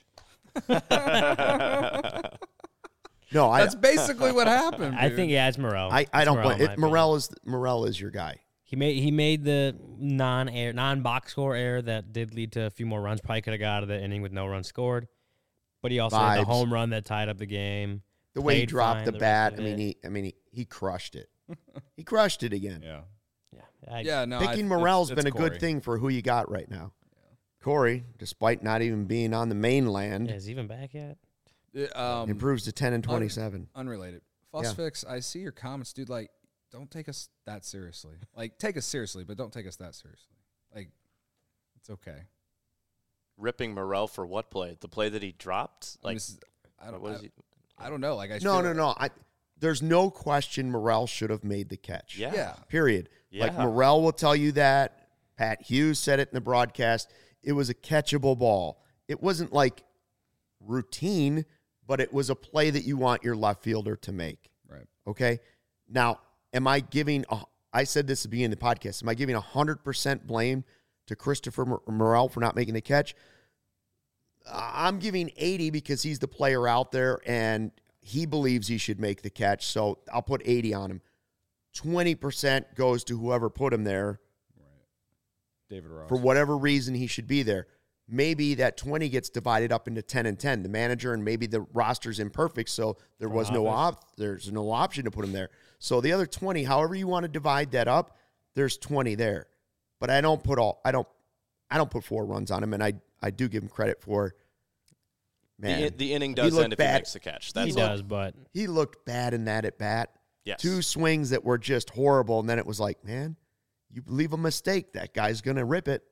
No, I That's basically what happened. I dude. think yeah, it's Morel. I, I It's don't Morel, blame in my it. Morel opinion. is Morel is your guy. He made he made the non air non box score error that did lead to a few more runs. Probably could have got out of the inning with no runs scored. But he also had the Vibes. home run that tied up the game. The way he Played dropped fine the the bat. rest I of mean, it. he I mean he, he crushed it. He crushed it again. Yeah. Yeah, I, Yeah. No. I- Picking it's- Morel's it's been a good Corey. thing for who you got right now. Corey, despite not even being on the mainland, Yeah, is he even back yet? Uh, Um, improves to ten and twenty-seven. unrelated. Fuss Yeah. Fix, I see your comments, dude. Like, don't take us that seriously. Like, take us seriously, but don't take us that seriously. Like, it's okay. Ripping Morel for what play? The play that he dropped? I, mean, Like this is- I don't. what I, is he? I don't know. Like, I No, feel no, like- no. I, there's no question Morel should have made the catch. Yeah. Yeah. Period. Like Yeah. Morel will tell you that. Pat Hughes said it in the broadcast. It was a catchable ball. It wasn't like routine, but it was a play that you want your left fielder to make. Right. Okay. Now, am I giving, a, I said this at the beginning of the podcast, am I giving one hundred percent blame to Christopher Mor- Morel for not making the catch? I'm giving eighty because he's the player out there and he believes he should make the catch. So I'll put eighty on him. twenty percent goes to whoever put him there David Ross. for whatever reason he should be there. Maybe that twenty gets divided up into ten and ten. The manager and maybe the roster's imperfect, so there was no op- there's no option to put him there. So the other twenty, however you want to divide that up, there's twenty there. But I don't put all I don't I don't put four runs on him, and I I do give him credit for man. The, the inning he does looked end if bad. he makes the catch. He That's looked- does, but He looked bad in that at bat. yes. Two swings that were just horrible, and then it was like, man, you leave a mistake, that guy's gonna rip it.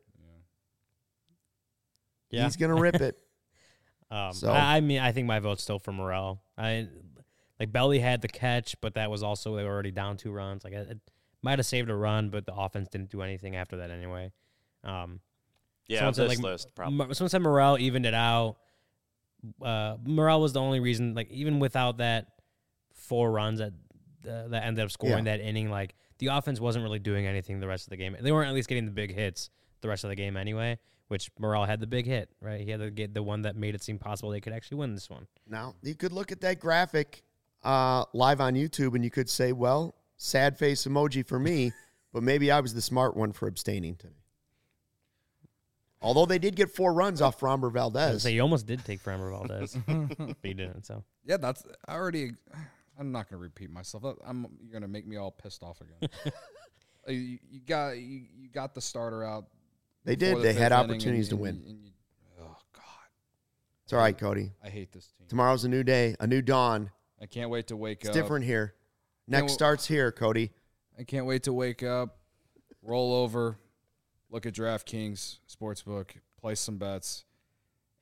yeah. He's gonna rip it. Um, So- I, I mean, I think my vote's still for Morel. I like Belly had the catch, but that was also they were already down two runs. Like it, it might have saved a run, but the offense didn't do anything after that anyway. Um, yeah, someone of said, this like, list, probably. Mo- someone said Morel evened it out. Uh, Morel was the only reason, like even without that four runs that uh, that ended up scoring Yeah. that inning, like the offense wasn't really doing anything the rest of the game. They weren't at least getting the big hits the rest of the game anyway. Which Morel had the big hit, right? He had to get the one that made it seem possible they could actually win this one. Now, you could look at that graphic uh, live on YouTube and you could say, well, sad face emoji for me, but maybe I was the smart one for abstaining today. Although they did get four runs off Framber Valdez. So you almost did take Framber Valdez, but you didn't. So Yeah, that's I already. I'm not gonna repeat myself. I'm you're gonna make me all pissed off again. Uh, you, you got you, you got the starter out. They before did. the They had fifth inning opportunities and- to and win. you- and you- oh God, It's all right, Cody. I hate this team. Tomorrow's a new day, a new dawn. I can't wait to wake It's up. different here. Next w- starts here, Cody. I can't wait to wake up, roll over, look at DraftKings Sportsbook, place some bets,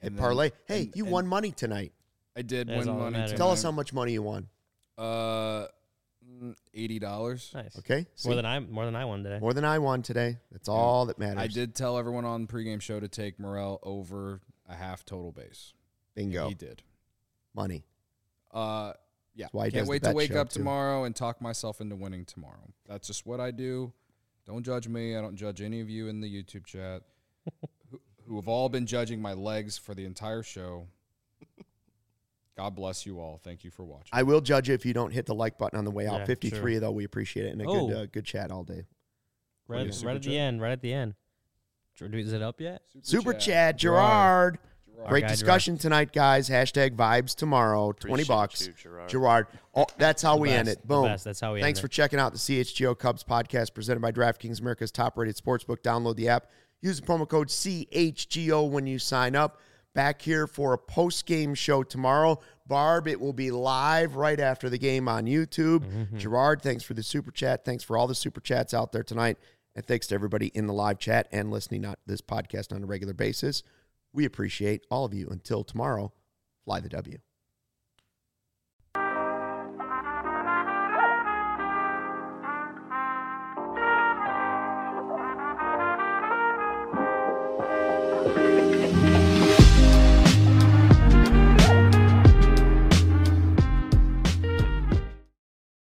Hey, And then- parlay. Hey, and- you and won money tonight. I did That's win all that money. matters. Tonight. Tell us how much money you won. Uh, mm, eighty dollars. Nice. Okay? More See? than I more than I won today. More than I won today. That's all that matters. I did tell everyone on the pregame show to take Morel over a half total base. Bingo. He did. Money. Uh, yeah. why he does Can't the wait to bet wake show, up too. tomorrow and talk myself into winning tomorrow. That's just what I do. Don't judge me. I don't judge any of you in the YouTube chat who, who have all been judging my legs for the entire show. God bless you all. Thank you for watching. I will judge you if you don't hit the like button on the way out. Yeah, fifty-three, sure. though, we appreciate it. And a Oh. good uh, good chat all day. Right, Yeah, right super at the chat. end. Right at the end. Is it up yet? Super chat, Gerard. Gerard. Great Our guy, discussion tonight, guys. Hashtag vibes tomorrow. twenty Appreciate bucks. you, Gerard. Gerard. Oh, that's how we The end best, it. the Boom. best. That's how we Thanks end for it. checking out the C H G O Cubs podcast presented by DraftKings, America's top-rated sportsbook. Download the app. Use the promo code C H G O when you sign up. Back here for a post-game show tomorrow. Barb, it will be live right after the game on YouTube. Mm-hmm. Gerard, thanks for the super chat. Thanks for all the super chats out there tonight. And thanks to everybody in the live chat and listening to this podcast on a regular basis. We appreciate all of you. Until tomorrow, fly the W.